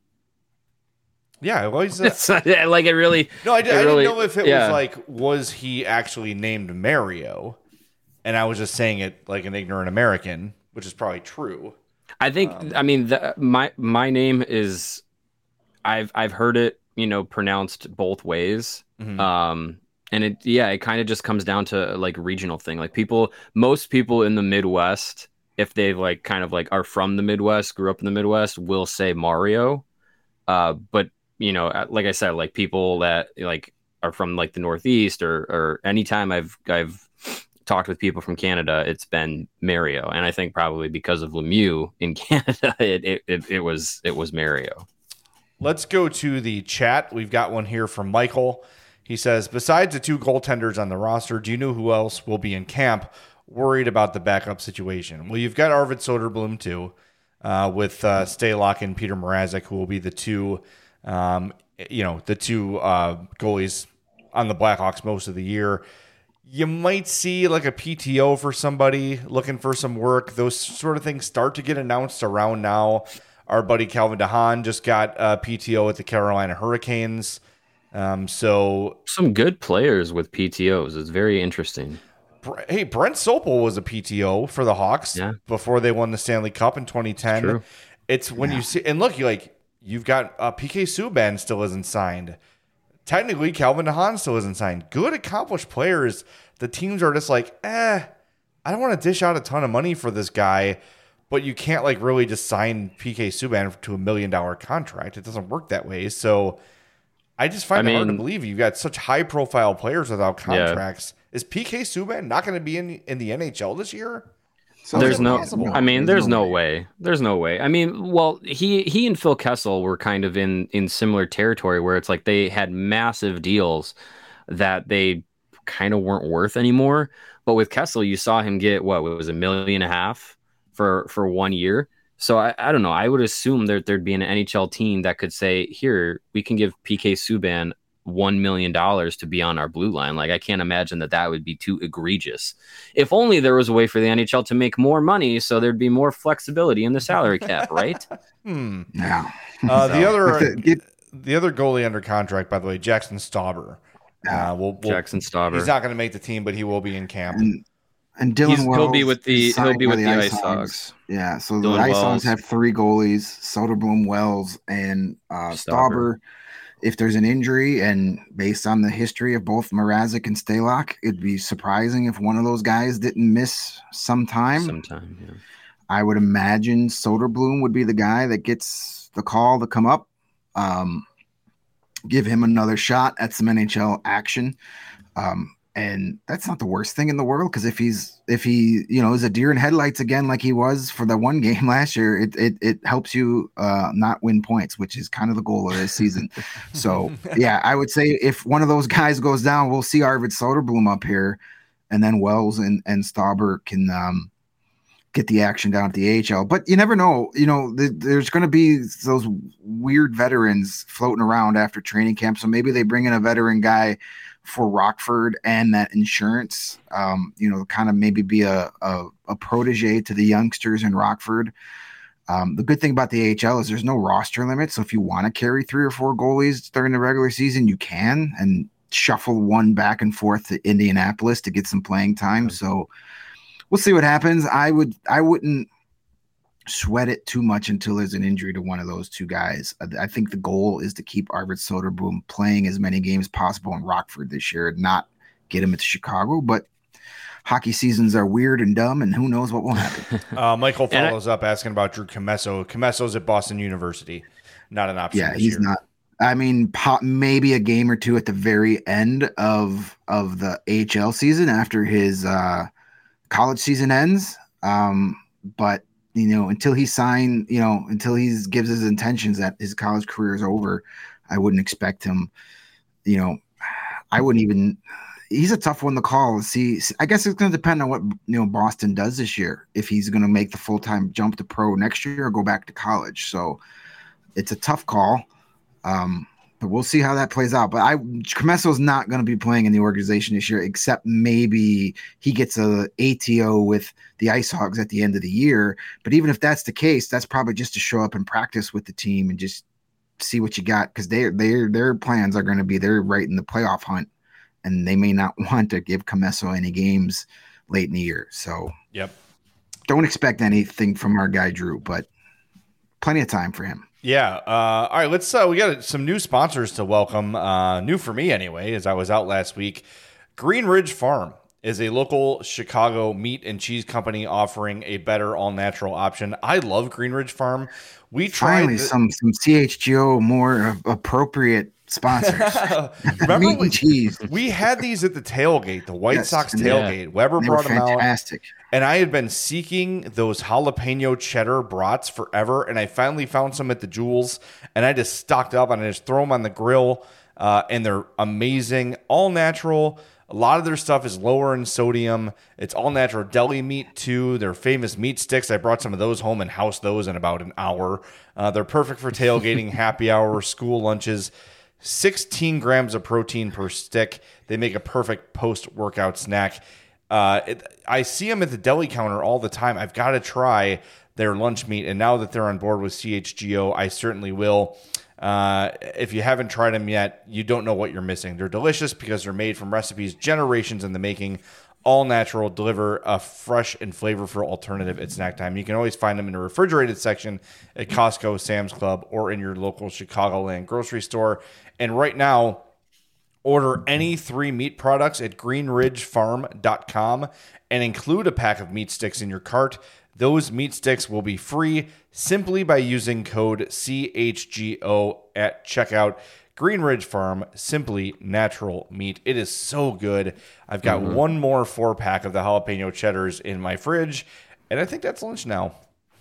Speaker 1: Yeah, well, he's, uh,
Speaker 2: It's like it really.
Speaker 1: no, I, did,
Speaker 2: it
Speaker 1: I
Speaker 2: really-
Speaker 1: didn't know if it
Speaker 2: yeah.
Speaker 1: was like, was he actually named Mario? And I was just saying it like an ignorant American, which is probably true.
Speaker 2: I think
Speaker 1: Um,
Speaker 2: I mean the, my my name is I've I've heard it, you know, pronounced both ways.
Speaker 1: Mhm.
Speaker 2: Um and it yeah, it kind of just comes down to like regional thing. Like people most people in the Midwest, if they like kind of like are from the Midwest, grew up in the Midwest, will say Mario. Uh but you know, like I said, like people that like are from like the Northeast or or anytime I've I've talked with people from Canada, it's been Mario, and I think probably because of Lemieux in Canada, it it, it, it was it was Mario.
Speaker 1: Let's go to the chat. We've got one here from Michael. He says, besides the two goaltenders on the roster, do you know who else will be in camp worried about the backup situation? Well, you've got Arvid Soderblom too, uh, with uh, Stalock and Peter Mrazek, who will be the two, um, you know, the two uh, goalies on the Blackhawks most of the year. You might see like a P T O for somebody looking for some work. Those sort of things start to get announced around now. Our buddy Calvin DeHaan just got a P T O at the Carolina Hurricanes. Um, so,
Speaker 2: Some good players with P T Os. It's very interesting.
Speaker 1: Bre- hey, Brent Sopel was a P T O for the Hawks
Speaker 2: Yeah.
Speaker 1: before they won the Stanley Cup in twenty ten.
Speaker 2: True.
Speaker 1: It's when you see, and look, you like you've got uh, P K Subban still isn't signed. Technically, Calvin DeHaan still isn't signed. Good, accomplished players. The teams are just like, eh, I don't want to dish out a ton of money for this guy, but you can't like really just sign P K Subban to a million dollar contract. It doesn't work that way. So I just find
Speaker 2: I
Speaker 1: it hard to
Speaker 2: mean-
Speaker 1: believe you've got such high profile players without
Speaker 2: Yeah.
Speaker 1: contracts. Is P K Subban not going to be in in the N H L this year?
Speaker 3: So
Speaker 2: There's
Speaker 1: it
Speaker 2: no,
Speaker 1: possible?
Speaker 2: I mean,
Speaker 3: There's
Speaker 2: there's
Speaker 3: no
Speaker 2: no way. There's no way. I mean, well, he he and Phil Kessel were kind of in in similar territory where it's like they had massive deals that they kind of weren't worth anymore. But with Kessel, you saw him get what was a million and a half for for one year. So I, I don't know. I would assume that there'd be an N H L team that could say, here, we can give P K Subban one million dollars to be on our blue line. Like, I can't imagine that that would be too egregious. If only there was a way for the N H L to make more money so there'd be more flexibility in the salary cap, right?
Speaker 1: Hmm.
Speaker 3: Yeah.
Speaker 1: Uh, the
Speaker 2: So-
Speaker 1: other
Speaker 3: Get-
Speaker 1: the other goalie under contract, by the way, Jackson Stauber. Uh, we'll, we'll,
Speaker 2: Jackson Stauber.
Speaker 1: He's not going to make the team, but he will be in camp.
Speaker 3: and, and Dylan
Speaker 2: He's- he'll
Speaker 3: Wells
Speaker 2: be with the
Speaker 3: is
Speaker 2: he'll
Speaker 3: signed
Speaker 2: be
Speaker 3: by
Speaker 2: with the Ice Hogs.
Speaker 3: Yeah, so
Speaker 2: Dylan
Speaker 3: the Ice
Speaker 2: Wells.
Speaker 3: Hogs have three goalies: Soderblom, Wells, and uh,
Speaker 2: Stauber.
Speaker 3: Stauber. If there's an injury, and based on the history of both Mrazek and Stalock, it'd be surprising if one of those guys didn't miss some time.
Speaker 2: Sometime, yeah.
Speaker 3: I would imagine Soderblom would be the guy that gets the call to come up, um, give him another shot at some N H L action. Um, and that's not the worst thing in the world, because if he's if he you know is a deer in headlights again like he was for the one game last year, it it, it helps you uh, not win points, which is kind of the goal of this season. So yeah, I would say if one of those guys goes down, we'll see Arvid Soderblom up here, and then Wells and and Stauber can um, get the action down at the A H L. But you never know. You know, th- there's going to be those weird veterans floating around after training camp. So maybe they bring in a veteran guy for Rockford and that insurance, um, you know, kind of maybe be a, a, a protege to the youngsters in Rockford. Um, the good thing about the A H L is there's no roster limit. So if you want to carry three or four goalies during the regular season, you can, and shuffle one back and forth to Indianapolis to get some playing time. So we'll see what happens. I would, I wouldn't sweat it too much until there's an injury to one of those two guys. I, I think the goal is to keep Arvid Soderblom playing as many games possible in Rockford this year, and not get him into Chicago. But hockey seasons are weird and dumb, and who knows what will happen.
Speaker 1: uh, Michael follows I, up asking about Drew Commesso. Comesso's at Boston University, not an option.
Speaker 3: Yeah,
Speaker 1: this
Speaker 3: he's
Speaker 1: year.
Speaker 3: not. I mean, pop, maybe a game or two at the very end of of the A H L season after his uh, college season ends. Um, but you know, until he sign, you know, until he gives his intentions that his college career is over, I wouldn't expect him. You know, I wouldn't even. He's a tough one to call. See, I guess it's going to depend on what you know Boston does this year. If he's going to make the full time jump to pro next year or go back to college, so it's a tough call. Um, but we'll see how that plays out. But I, Comesso's not going to be playing in the organization this year, except maybe he gets a A T O with the Ice Hogs at the end of the year. But even if that's the case, that's probably just to show up and practice with the team and just see what you got, because they, they, their plans are going to be they're right in the playoff hunt, and they may not want to give Commesso any games late in the year. So
Speaker 1: yep,
Speaker 3: don't expect anything from our guy Drew, but plenty of time for him.
Speaker 1: Yeah. Uh, all right. Let's. Uh, we got some new sponsors to welcome. Uh, new for me anyway, as I was out last week. Green Ridge Farm is a local Chicago meat and cheese company offering a better all-natural option. I love Green Ridge Farm. We tried
Speaker 3: finally the- some some C H G O more appropriate sponsors.
Speaker 1: Remember
Speaker 3: meat
Speaker 1: we,
Speaker 3: and cheese.
Speaker 1: We had these at the tailgate, the White
Speaker 3: Yes,
Speaker 1: Sox
Speaker 3: and
Speaker 1: tailgate.
Speaker 2: yeah.
Speaker 1: Weber
Speaker 3: They
Speaker 1: brought
Speaker 3: were
Speaker 1: them out.
Speaker 3: fantastic.
Speaker 1: And I had been seeking those jalapeno cheddar brats forever, and I finally found some at the Jewels, and I just stocked up and I just throw them on the grill, uh, and they're amazing, all natural. A lot of their stuff is lower in sodium. It's all natural deli meat too. Their famous meat sticks, I brought some of those home and housed those in about an hour. Uh, they're perfect for tailgating, happy hour, school lunches. sixteen grams of protein per stick. They make a perfect post-workout snack. Uh, it, I see them at the deli counter all the time. I've got to try their lunch meat, and now that they're on board with C H G O, I certainly will. Uh, if you haven't tried them yet, you don't know what you're missing. They're delicious because they're made from recipes generations in the making, all natural, deliver a fresh and flavorful alternative at snack time. You can always find them in the refrigerated section at Costco, Sam's Club, or in your local Chicagoland grocery store. And right now, order any three meat products at green ridge farm dot com and include a pack of meat sticks in your cart. Those meat sticks will be free simply by using code C H G O at checkout. Green Ridge Farm, simply natural meat. It is so good. I've got mm-hmm. one more four pack of the jalapeno cheddars in my fridge, and I think that's lunch now.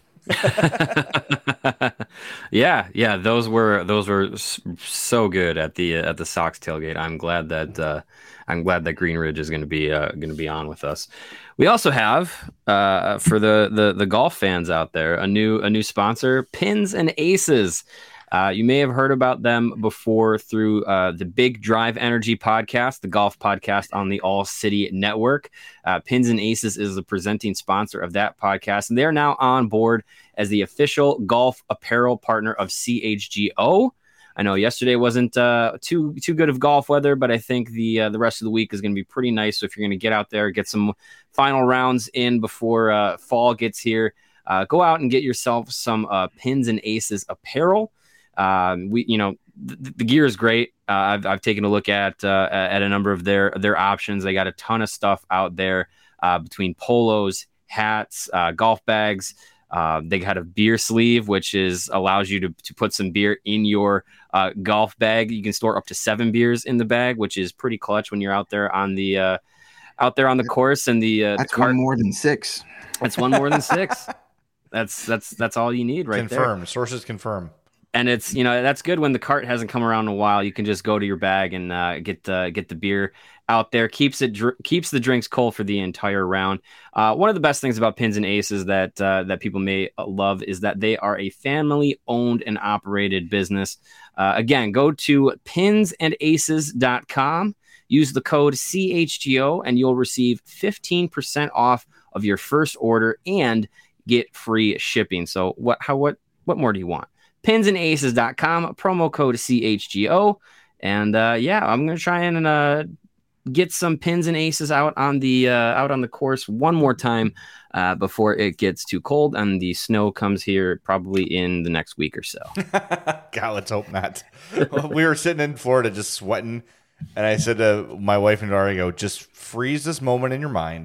Speaker 2: yeah, yeah, those were those were so good at the at the Sox tailgate. I'm glad that uh, I'm glad that Green Ridge is going to be uh, going to be on with us. We also have uh, for the, the the golf fans out there a new a new sponsor, Pins and Aces. Uh, you may have heard about them before through uh, the Big Drive Energy podcast, the golf podcast on the All City Network. Uh, Pins and Aces is the presenting sponsor of that podcast, and they are now on board as the official golf apparel partner of C H G O. I know yesterday wasn't uh, too too good of golf weather, but I think the uh, the rest of the week is going to be pretty nice. So if you're going to get out there, get some final rounds in before uh, fall gets here, uh, go out and get yourself some uh, Pins and Aces apparel. Um, we, you know, the, the gear is great. Uh, I've, I've taken a look at, uh, at a number of their, their options. They got a ton of stuff out there, uh, between polos, hats, uh, golf bags. Uh, they got a beer sleeve, which is allows you to, to put some beer in your, uh, golf bag. You can store up to seven beers in the bag, which is pretty clutch when you're out there on the, uh, out there on the course and the, uh,
Speaker 3: that's
Speaker 2: the cart.
Speaker 3: one more than six.
Speaker 2: That's one more than six. That's, that's, that's all you need right there.
Speaker 1: Confirmed. Sources confirm.
Speaker 2: And it's, you know, that's good when the cart hasn't come around in a while. You can just go to your bag and uh, get uh, get the beer out there. Keeps it dr- keeps the drinks cold for the entire round. Uh, one of the best things about Pins and Aces that uh, that people may love is that they are a family owned and operated business. Uh, again, go to pins and aces dot com. Use the code C H G O and you'll receive fifteen percent off of your first order and get free shipping. So what how what what more do you want? pins and aces dot com, promo code C H G O. And uh, yeah, I'm going to try and uh, get some Pins and Aces out on the uh, out on the course one more time uh, before it gets too cold and the snow comes here probably in the next week or so.
Speaker 1: God, let's hope not. We were sitting in Florida just sweating, and I said to my wife and daughter, I go, just freeze this moment in your mind.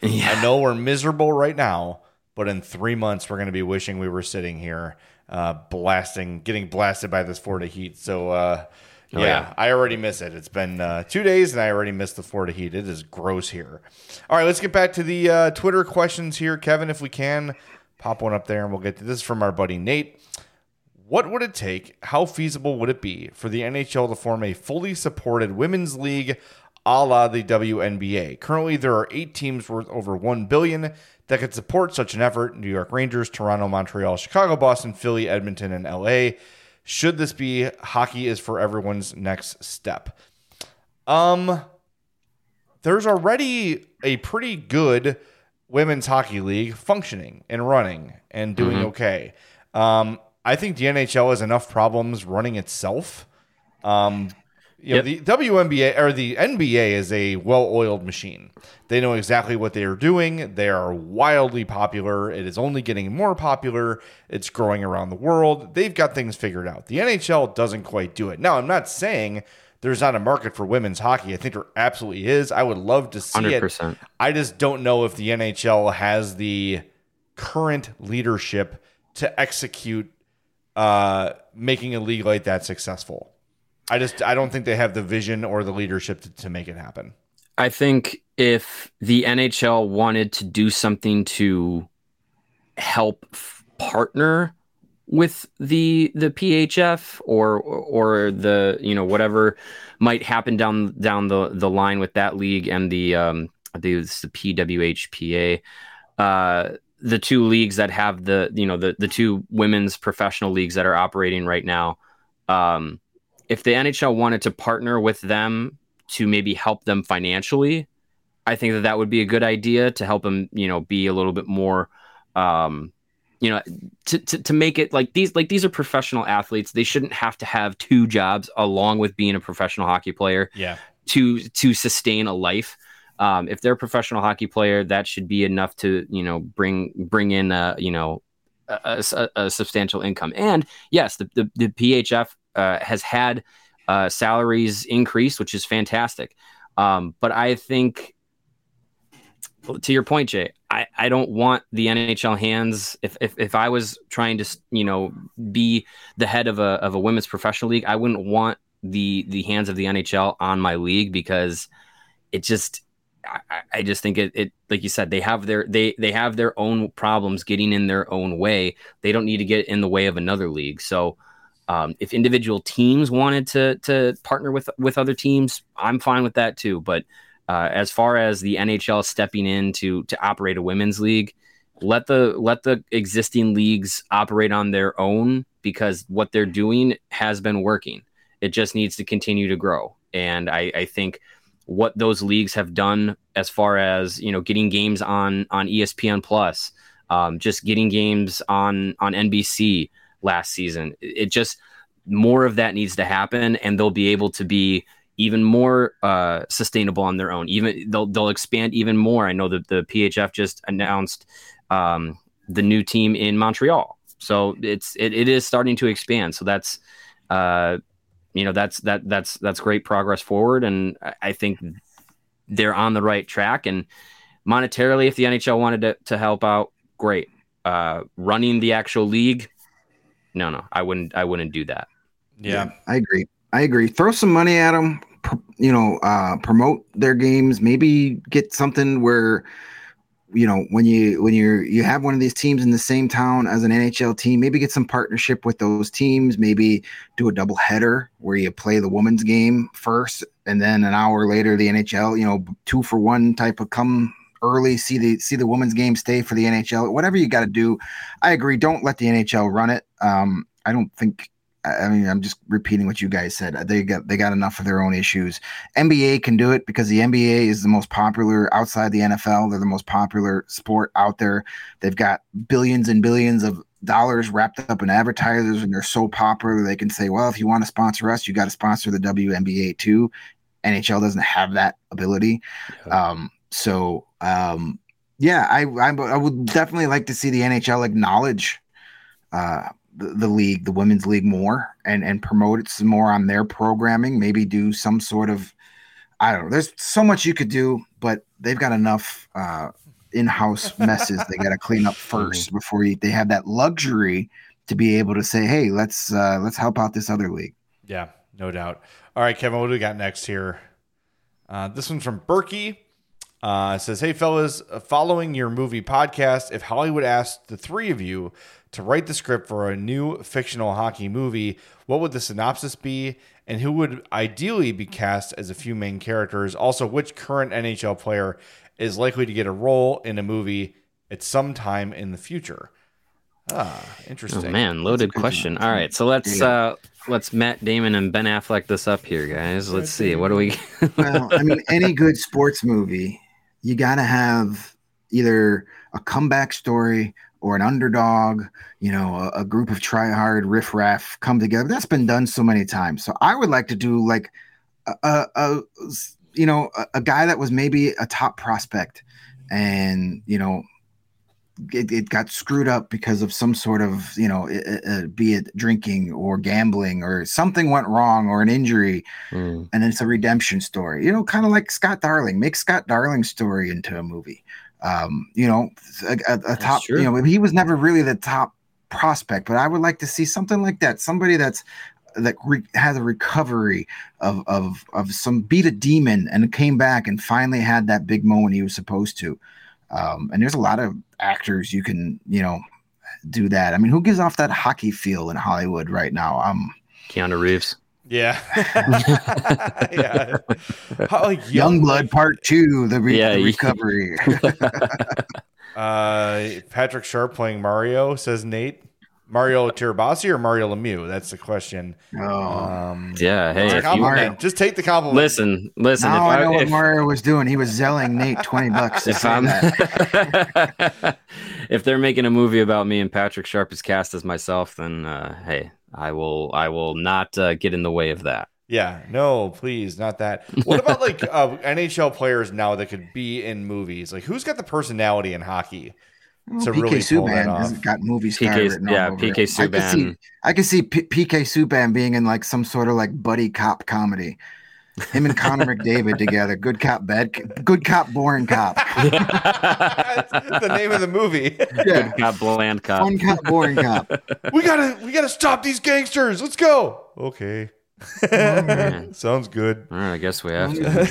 Speaker 2: Yeah.
Speaker 1: I know we're miserable right now, but in three months we're going to be wishing we were sitting here uh, blasting, getting blasted by this Florida heat. So, uh, yeah, oh, yeah, I already miss it. It's been uh, two days, and I already missed the Florida heat. It is gross here. All right, let's get back to the uh, Twitter questions here. Kevin, if we can, pop one up there, and we'll get to this from our buddy Nate. What would it take, how feasible would it be for the N H L to form a fully supported women's league a la the W N B A? Currently, there are eight teams worth over one billion dollars that could support such an effort: New York Rangers, Toronto, Montreal, Chicago, Boston, Philly, Edmonton, and L A. Should this be hockey is for everyone's next step? Um, there's already a pretty good women's hockey league functioning and running and doing mm-hmm. okay. Um, I think the N H L has enough problems running itself. Um, you yep. know, the W N B A or the N B A is a well-oiled machine. They know exactly what they are doing. They are wildly popular. It is only getting more popular. It's growing around the world. They've got things figured out. The N H L doesn't quite do it. Now, I'm not saying there's not a market for women's hockey. I think there absolutely is. I would love to see one hundred percent. It. I just don't know if the N H L has the current leadership to execute uh, making a league like that successful. I just I don't think they have the vision or the leadership to, to make it happen.
Speaker 2: I think if the N H L wanted to do something to help f- partner with the the P H F or or the you know whatever might happen down down the, the line with that league and the um I think it's the P W H P A, uh, the two leagues that have the you know the the two women's professional leagues that are operating right now. Um, if the N H L wanted to partner with them to maybe help them financially, I think that that would be a good idea to help them, you know, be a little bit more, um, you know, to, to, to make it like these, like these are professional athletes. They shouldn't have to have two jobs along with being a professional hockey player
Speaker 1: yeah.
Speaker 2: to, to sustain a life. Um, if they're a professional hockey player, that should be enough to, you know, bring, bring in, a, you know, a, a, a substantial income. And yes, the, the, the P H F uh, has had uh, salaries increase, which is fantastic. Um, but I think, to your point, Jay, I, I don't want the N H L hands. If, if if I was trying to, you know, be the head of a of a women's professional league, I wouldn't want the the hands of the N H L on my league, because it just I, I just think it, it like you said, they have their they they have their own problems getting in their own way. They don't need to get in the way of another league. So um, if individual teams wanted to to partner with with other teams, I'm fine with that too. But Uh, as far as the N H L stepping in to to operate a women's league, let the let the existing leagues operate on their own, because what they're doing has been working. It just needs to continue to grow. And I, I think what those leagues have done, as far as, you know, getting games on on E S P N Plus, um, just getting games on on N B C last season, it just more of that needs to happen, and they'll be able to be even more uh, sustainable on their own. Even they'll they'll expand even more. I know that the P H F just announced um, the new team in Montreal, so it's it, it is starting to expand. So that's uh, you know that's that that's that's great progress forward, and I think they're on the right track. And monetarily, if the N H L wanted to, to help out, great. Uh, running the actual league, no, no, I wouldn't I wouldn't do that.
Speaker 1: Yeah,
Speaker 3: yeah I agree. I agree. Throw some money at them, pr- you know, uh, promote their games, maybe get something where, you know, when you, when you're, you have one of these teams in the same town as an N H L team, maybe get some partnership with those teams, maybe do a double header where you play the women's game first, and then an hour later, the N H L, you know, two for one type of come early, see the, see the women's game, stay for the N H L, whatever you got to do. I agree. Don't let the N H L run it. Um, I don't think, I mean, I'm just repeating what you guys said. They got they got enough of their own issues. N B A can do it because the N B A is the most popular outside the N F L. They're the most popular sport out there. They've got billions and billions of dollars wrapped up in advertisers, and they're so popular they can say, well, if you want to sponsor us, you got to sponsor the W N B A too. N H L doesn't have that ability. Yeah. Um, so, um, yeah, I, I I would definitely like to see the N H L acknowledge uh The, the league, the women's league, more and and promote it some more on their programming. Maybe do some sort of, I don't know. There's so much you could do, but they've got enough uh, in-house messes they got to clean up first before you, they have that luxury to be able to say, hey, let's uh, let's help out this other league.
Speaker 1: Yeah, no doubt. All right, Kevin, what do we got next here? Uh, this one's from Berkey. Uh, it says, hey, fellas, following your movie podcast, if Hollywood asked the three of you to write the script for a new fictional hockey movie, what would the synopsis be? And who would ideally be cast as a few main characters? Also, which current N H L player is likely to get a role in a movie at some time in the future? Ah, interesting.
Speaker 2: Oh, man, loaded question. All right, so let's uh, let's Matt Damon and Ben Affleck this up here, guys. Let's see. What do we?
Speaker 3: Well, I mean, any good sports movie, you got to have either a comeback story or an underdog, you know, a, a group of try-hard riffraff come together. That's been done so many times. So I would like to do like a, a, a you know, a, a guy that was maybe a top prospect and, you know, It, it got screwed up because of some sort of, you know, uh, be it drinking or gambling or something went wrong or an injury. Mm. And it's a redemption story, you know, kind of like Scott Darling. Make Scott Darling's story into a movie. Um, you know, a, a, a top, you know, he was never really the top prospect, but I would like to see something like that. Somebody that's that re- has a recovery of, of, of some beat a demon and came back and finally had that big moment he was supposed to. Um, and there's a lot of actors you can, you know, do that. I mean, who gives off that hockey feel in Hollywood right now? Um,
Speaker 2: Keanu Reeves.
Speaker 1: Yeah. yeah. How, like,
Speaker 3: young, Youngblood Part Two, the, re-
Speaker 2: yeah,
Speaker 3: the recovery.
Speaker 1: uh, Patrick Sharp playing Mario, says Nate. Mario Tirabassi or Mario Lemieux? That's the question.
Speaker 3: Oh,
Speaker 1: um,
Speaker 2: yeah. Hey,
Speaker 1: if you, just take the compliment.
Speaker 2: Listen, listen.
Speaker 3: Now
Speaker 2: if
Speaker 3: I know
Speaker 2: I,
Speaker 3: what
Speaker 2: if,
Speaker 3: Mario was doing. He was zelling Nate twenty bucks.
Speaker 2: If I'm, if they're making a movie about me and Patrick Sharp is cast as myself, then uh, hey, I will. I will not uh, get in the way of that.
Speaker 1: Yeah, no, please, not that. What about like uh, N H L players now that could be in movies? Like, who's got the personality in hockey?
Speaker 3: Well, to P K really pull that off. Hasn't got movie star
Speaker 2: P K,
Speaker 3: written
Speaker 2: yeah,
Speaker 3: all over
Speaker 2: P K
Speaker 3: it.
Speaker 2: Subban.
Speaker 3: I could see, I could see P- PK Subban being in like some sort of like buddy cop comedy. Him and Connor McDavid together. Good cop, bad, good cop, boring cop.
Speaker 1: That's the name of the movie.
Speaker 2: Yeah. Good cop, bland cop.
Speaker 3: Fun cop, boring cop.
Speaker 1: We gotta, we gotta stop these gangsters. Let's go. Okay. Oh, sounds good.
Speaker 2: All right, I guess we have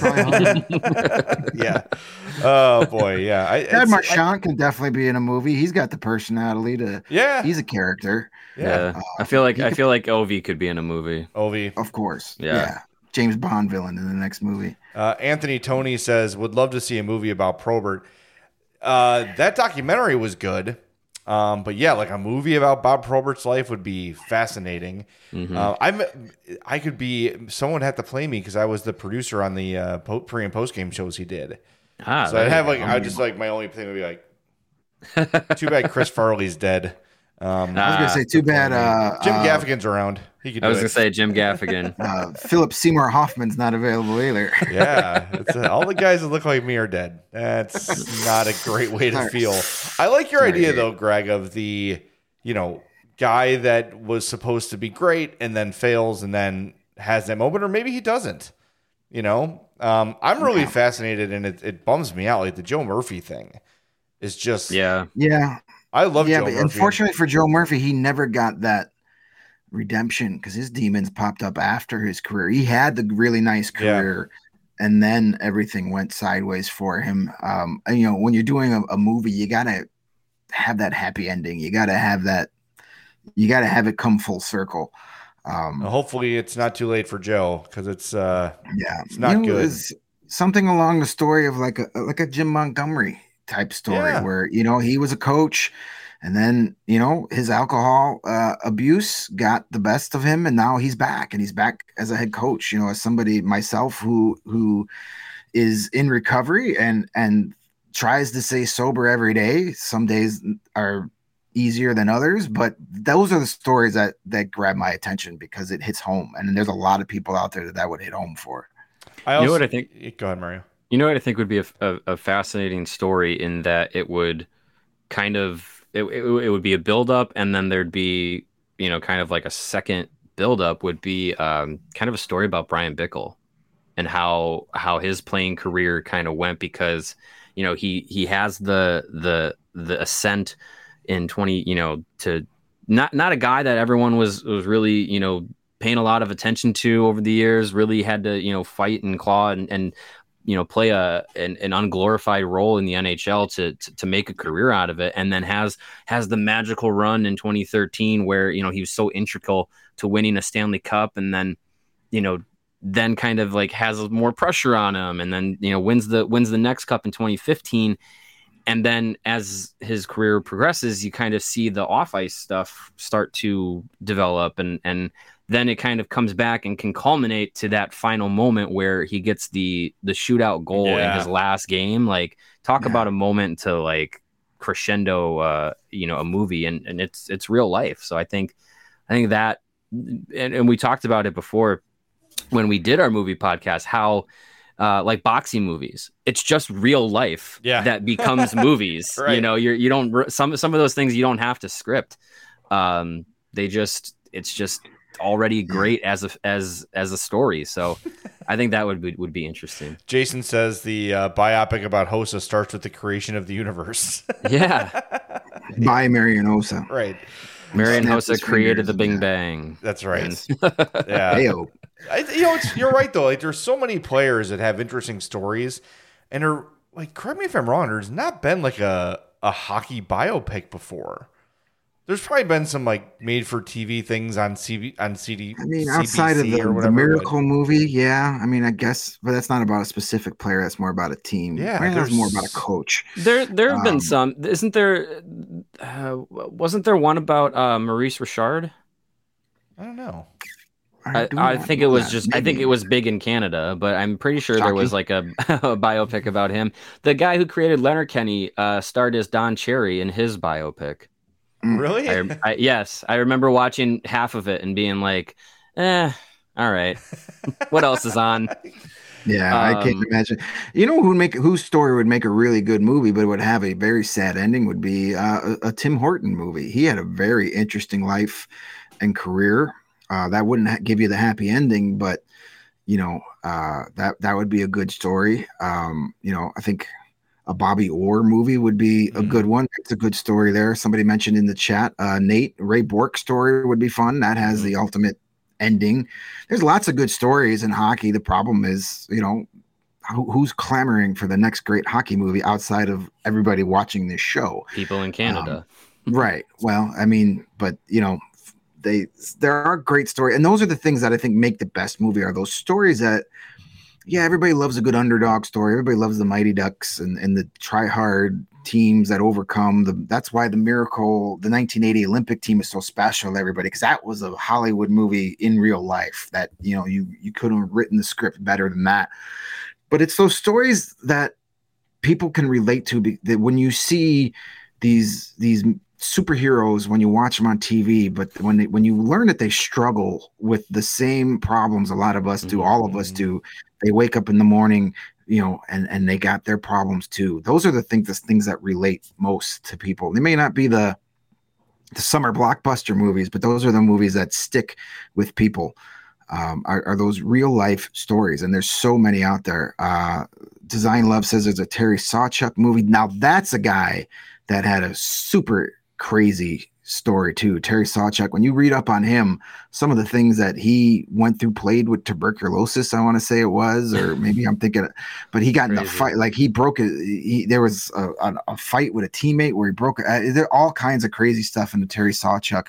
Speaker 2: to.
Speaker 1: Yeah. Oh boy. Yeah. I,
Speaker 3: Ed Marchand can definitely be in a movie. He's got the personality to.
Speaker 1: Yeah.
Speaker 3: He's a character.
Speaker 2: Yeah. yeah. Uh, I feel like I feel like Ovi could be in a movie.
Speaker 1: Ovi,
Speaker 3: of course.
Speaker 2: Yeah.
Speaker 3: yeah. James Bond villain in the next movie.
Speaker 1: Uh, Anthony Tony says would love to see a movie about Probert. Uh, that documentary was good. Um, but yeah, like a movie about Bob Probert's life would be fascinating. Mm-hmm. Uh, I'm, I could be, someone had to play me because I was the producer on the uh, pre and post game shows he did.
Speaker 2: Ah,
Speaker 1: so I'd have like, I just like my only thing would be like, too bad Chris Farley's dead. Um,
Speaker 3: I was gonna say, too bad. Uh,
Speaker 1: Jim
Speaker 3: uh,
Speaker 1: Gaffigan's around. He could.
Speaker 2: I was
Speaker 1: do
Speaker 2: gonna
Speaker 1: it.
Speaker 2: say Jim Gaffigan.
Speaker 3: uh, Philip Seymour Hoffman's not available either.
Speaker 1: Yeah, it's, uh, all the guys that look like me are dead. That's not a great way to
Speaker 3: Sorry.
Speaker 1: feel. I like your
Speaker 3: Sorry.
Speaker 1: idea though, Greg, of the you know guy that was supposed to be great and then fails and then has that moment, or maybe he doesn't. You know, um, I'm really
Speaker 3: Yeah.
Speaker 1: fascinated, and it, it bums me out. Like the Joe Murphy thing is just
Speaker 2: Yeah.
Speaker 3: Yeah.
Speaker 1: I love
Speaker 3: yeah,
Speaker 1: Joe
Speaker 3: but
Speaker 1: Murphy.
Speaker 3: unfortunately for Joe Murphy, he never got that redemption because his demons popped up after his career. He had the really nice career, yeah. and then everything went sideways for him. Um, and, you know, when you're doing a, a movie, you gotta have that happy ending. You gotta have that. You gotta have it come full circle. Um,
Speaker 1: Well, hopefully, it's not too late for Joe because it's uh,
Speaker 3: yeah,
Speaker 1: it's not
Speaker 3: you know,
Speaker 1: good.
Speaker 3: It's something along the story of like a like a Jim Montgomery type story
Speaker 1: Yeah.
Speaker 3: where, you know, he was a coach and then, you know, his alcohol uh, abuse got the best of him and now he's back and he's back as a head coach, you know, as somebody myself who who is in recovery and and tries to stay sober every day. Some days are easier than others, but those are the stories that that grab my attention because it hits home, and there's a lot of people out there that that would hit home for.
Speaker 1: I also,
Speaker 2: You know what I think?
Speaker 1: Go ahead, Mario.
Speaker 2: You know what I think would be a, a, a fascinating story in that it would kind of it, it, it would be a build up and then there'd be, you know, kind of like a second build up would be um, kind of a story about Brian Bickle and how how his playing career kind of went because you know, he he has the the the ascent in twenty, you know, to not not a guy that everyone was was really, you know, paying a lot of attention to over the years. Really had to, you know, fight and claw and and you know, play a an, an unglorified role in the N H L to, to to make a career out of it, and then has has the magical run in twenty thirteen where, you know, he was so integral to winning a Stanley Cup, and then, you know, then kind of like has more pressure on him, and then, you know, wins the wins the next cup in twenty fifteen. And then as his career progresses, you kind of see the off ice stuff start to develop, and and then it kind of comes back and can culminate to that final moment where he gets the the shootout goal
Speaker 1: Yeah.
Speaker 2: in his last game. Like, talk
Speaker 3: Yeah.
Speaker 2: about a moment to like crescendo, uh, you know, a movie, and, and it's it's real life. So I think I think that, and, and we talked about it before when we did our movie podcast, how uh, like boxing movies, it's just real life
Speaker 1: Yeah.
Speaker 2: that becomes movies.
Speaker 1: Right.
Speaker 2: You know, you're you don't some some of those things you don't have to script. Um, they just it's just already great as a as as a story. So I think that would be would be interesting.
Speaker 1: Jason says the uh, biopic about Hossa starts with the creation of the universe.
Speaker 2: Yeah,
Speaker 3: By Marian Hossa.
Speaker 1: Right.
Speaker 2: Marian
Speaker 3: Snap
Speaker 2: Hossa
Speaker 3: his
Speaker 2: created
Speaker 3: fingers
Speaker 2: the
Speaker 3: and
Speaker 2: Bing
Speaker 3: that.
Speaker 2: Bang.
Speaker 1: That's right.
Speaker 2: And-
Speaker 1: Yeah.
Speaker 3: Heyo.
Speaker 1: I, you know, it's, you're right though. Like, there's so many players that have interesting stories, and are like, correct me if I'm wrong. There's not been like a a hockey biopic before. There's probably been some like made for T V things on C V on C D.
Speaker 3: I mean,
Speaker 1: C B C
Speaker 3: outside of the,
Speaker 1: or
Speaker 3: the
Speaker 1: whatever,
Speaker 3: Miracle
Speaker 1: but-
Speaker 3: movie, yeah. I mean, I guess, but that's not about a specific player. That's more about a team.
Speaker 1: Yeah,
Speaker 3: I mean, that's
Speaker 1: there's-
Speaker 3: more about a coach.
Speaker 2: There, there have been
Speaker 3: Um,
Speaker 2: some. Isn't there? Uh, wasn't there one about uh, Maurice Richard?
Speaker 1: I don't know.
Speaker 2: I,
Speaker 3: do
Speaker 2: I
Speaker 3: not
Speaker 2: think
Speaker 3: know
Speaker 2: it was
Speaker 3: that.
Speaker 2: just. I think
Speaker 3: Maybe.
Speaker 2: it was big in Canada, but I'm pretty sure there was like
Speaker 3: Shocking.
Speaker 2: a, a biopic about him. The guy who created Leonard Kenny uh, starred as Don Cherry in his biopic.
Speaker 3: Mm.
Speaker 1: Really?
Speaker 2: I, I, yes, I remember watching half of it and being like, "Eh, all right, what else is on?"
Speaker 3: Yeah, I can't
Speaker 2: Um,
Speaker 3: imagine. You know who would make whose story would make a really good movie, but would have a very sad ending? Would be uh, a, a Tim Horton movie. He had a very interesting life and career. Uh, that wouldn't ha- give you the happy ending, but you know uh, that that would be a good story. Um, you know, I think a Bobby Orr movie would be a
Speaker 1: Mhm.
Speaker 3: good one. It's a good story there. Somebody mentioned in the chat, uh, Nate Ray Bork story would be fun. That has
Speaker 1: Mhm.
Speaker 3: the ultimate ending. There's lots of good stories in hockey. The problem is, you know, who, who's clamoring for the next great hockey movie outside of everybody watching this show?
Speaker 2: People in Canada.
Speaker 3: Right. Well, I mean, but you know, they there are great stories, and those are the things that I think make the best movie. Are those stories that, yeah, everybody loves a good underdog story. Everybody loves the Mighty Ducks and, and the try hard teams that overcome the. That's why the Miracle, the nineteen eighty Olympic team, is so special to everybody, because that was a Hollywood movie in real life. That, you know, you you couldn't have written the script better than that. But it's those stories that people can relate to. be- That when you see these these superheroes, when you watch them on T V, but when they, when you learn that they struggle with the same problems a lot of us do, all of us
Speaker 1: Mhm.
Speaker 3: do. They wake up in the morning, you know, and and they got their problems too. Those are the things, the things that relate most to people. They may not be the the summer blockbuster movies, but those are the movies that stick with people. Um, are, are those real life stories, and there's so many out there. Uh, Design Love says there's a Terry Sawchuk movie. Now that's a guy that had a super crazy story too. Terry Sawchuk, when you read up on him, some of the things that he went through, played with tuberculosis, I want to say it was, or maybe I'm thinking, but he got in a
Speaker 2: Crazy.
Speaker 3: fight, like he broke it. He, there was a, a, a fight with a teammate where he broke it. Uh, there are all kinds of crazy stuff in the Terry Sawchuk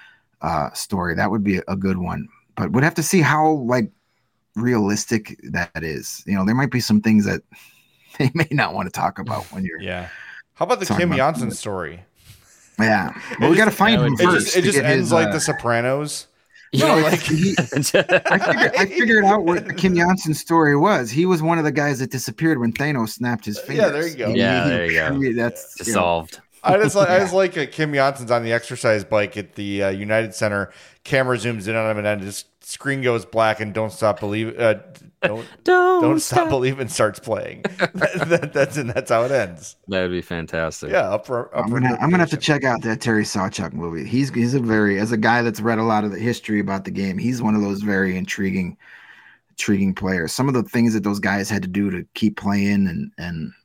Speaker 3: uh, story. That would be a good one, but we'd have to see how like realistic that is. You know, there might be some things that they may not want to talk about when you're,
Speaker 1: Yeah. How about the
Speaker 3: Talking
Speaker 1: Kim
Speaker 3: about-
Speaker 1: Janssen story?
Speaker 3: yeah. Well, we
Speaker 1: It
Speaker 3: got to
Speaker 1: just-
Speaker 3: find
Speaker 2: that
Speaker 3: him
Speaker 2: would-
Speaker 1: It
Speaker 3: first.
Speaker 1: just, it
Speaker 3: to
Speaker 1: just
Speaker 3: get
Speaker 1: ends
Speaker 3: his,
Speaker 1: like
Speaker 3: uh,
Speaker 1: The Sopranos.
Speaker 3: No,
Speaker 1: know,
Speaker 3: it's-
Speaker 1: like-
Speaker 3: he- I figured, I figured out what Kim Janssen's story was. He was one of the guys that disappeared when Thanos snapped his fingers.
Speaker 1: Yeah, there you go.
Speaker 3: He-
Speaker 2: Yeah,
Speaker 3: he-
Speaker 2: there you go.
Speaker 3: he- That's you know,
Speaker 2: Dissolved.
Speaker 1: I just like I
Speaker 3: Yeah.
Speaker 1: just like uh, Kim Janssen's on the exercise bike at the uh, United Center. Camera zooms in on him, and then his screen goes black, and "Don't Stop Believe." Uh, don't
Speaker 2: Don't,
Speaker 1: don't stop believing starts playing. that, that, that's and that's how it ends.
Speaker 2: That would be fantastic.
Speaker 1: Yeah, up for, up
Speaker 3: I'm
Speaker 1: for
Speaker 3: gonna I'm gonna have to
Speaker 1: interpretation.
Speaker 3: check out that Terry Sawchuk movie. He's he's a very, as a guy that's read a lot of the history about the game, he's one of those very intriguing intriguing players. Some of the things that those guys had to do to keep playing and and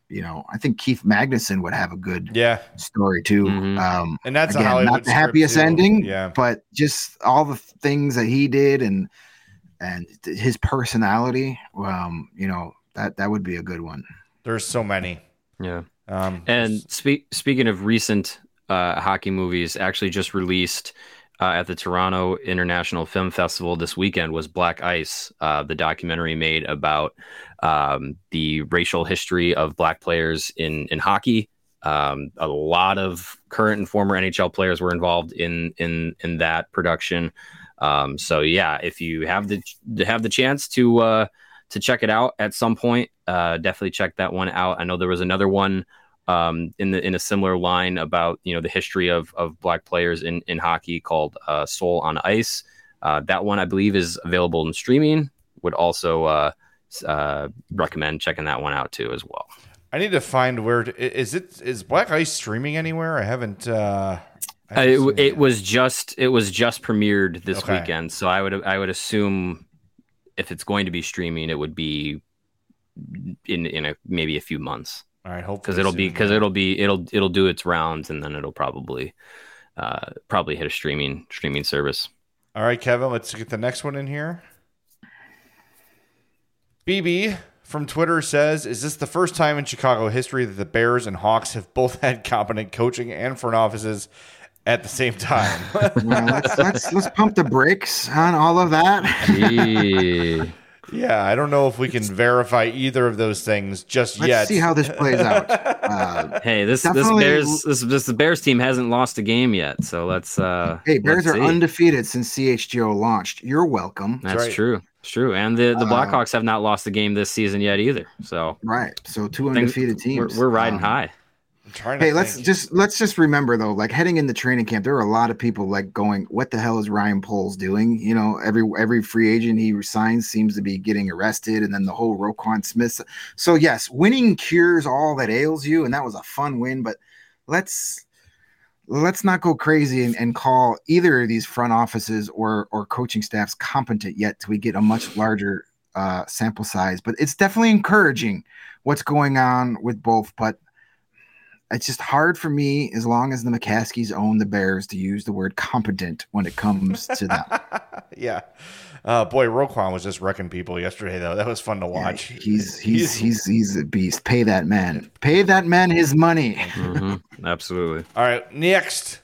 Speaker 3: you know, I think Keith Magnuson would have a good
Speaker 1: Yeah.
Speaker 3: story too.
Speaker 2: Mhm.
Speaker 3: Um,
Speaker 1: And that's a
Speaker 3: again,
Speaker 1: Hollywood
Speaker 3: not the
Speaker 1: script,
Speaker 3: happiest
Speaker 1: too.
Speaker 3: ending,
Speaker 1: Yeah.
Speaker 3: but just all the things that he did and and his personality. Um, you know, that that would be a good one.
Speaker 1: There's so many.
Speaker 2: Yeah.
Speaker 1: Um,
Speaker 2: And spe- speaking of recent uh, hockey movies, actually just released uh, at the Toronto International Film Festival this weekend was Black Ice, uh, the documentary made about um, the racial history of black players in in hockey. Um, a lot of current and former N H L players were involved in in in that production. Um, so yeah, if you have the have the chance to uh, to check it out at some point, uh, definitely check that one out. I know there was another one um, in the in a similar line about you know the history of of black players in in hockey called uh, Soul on Ice. Uh, that one I believe is available in streaming. Would also uh, uh, recommend checking that one out too as well.
Speaker 1: I need to find where to, is it is Black Ice streaming anywhere? I haven't. Uh, I
Speaker 2: Uh,
Speaker 1: haven't
Speaker 2: it,
Speaker 1: seen it
Speaker 2: it
Speaker 1: yet.
Speaker 2: was just it was just premiered this
Speaker 1: Okay.
Speaker 2: weekend, so I would I would assume if it's going to be streaming, it would be in in a maybe a few months
Speaker 1: All right, hopefully
Speaker 2: because it'll be
Speaker 1: soon,
Speaker 2: because
Speaker 1: yeah.
Speaker 2: it'll be it'll it'll do its rounds and then it'll probably uh, probably hit a streaming streaming service.
Speaker 1: All right, Kevin, let's get the next one in here. B B from Twitter says, is this the first time in Chicago history that the Bears and Hawks have both had competent coaching and front offices at the same time?
Speaker 3: Well, let's let's let's pump the brakes on all of that.
Speaker 2: Gee.
Speaker 1: Yeah, I don't know if we can verify either of those things just
Speaker 3: Let's
Speaker 1: yet.
Speaker 3: see how this plays out. Uh,
Speaker 2: Hey, this this
Speaker 3: Definitely-
Speaker 2: Bears this, this the Bears team hasn't lost a game yet, so let's. Uh,
Speaker 3: hey, Bears
Speaker 2: let's
Speaker 3: are
Speaker 2: see.
Speaker 3: undefeated since C H G O launched. You're welcome.
Speaker 2: That's
Speaker 1: right.
Speaker 2: true. It's true, and the the
Speaker 3: Uh,
Speaker 2: Blackhawks have not lost a game this season yet either. So
Speaker 3: Right. So two
Speaker 2: I think
Speaker 3: undefeated teams.
Speaker 2: We're, we're riding
Speaker 3: Um,
Speaker 2: high.
Speaker 1: I'm trying to
Speaker 3: Hey, let's
Speaker 1: think.
Speaker 3: just let's just remember though, like heading into training camp, there are a lot of people like going, "What the hell is Ryan Poles doing?" You know, every every free agent he resigns seems to be getting arrested, and then the whole Roquan Smith. So yes, winning cures all that ails you, and that was a fun win. But let's let's not go crazy and, and call either of these front offices or or coaching staffs competent yet till we get a much larger uh, sample size. But it's definitely encouraging what's going on with both, but. It's just hard for me, as long as the McCaskies own the Bears, to use the word competent when it comes to them.
Speaker 1: yeah. Uh, boy, Roquan was just wrecking people yesterday, though. That was fun to watch.
Speaker 3: Yeah, he's he's he's he's a beast. Pay that man. Pay that man his money.
Speaker 2: Mhm, absolutely.
Speaker 1: All right, next.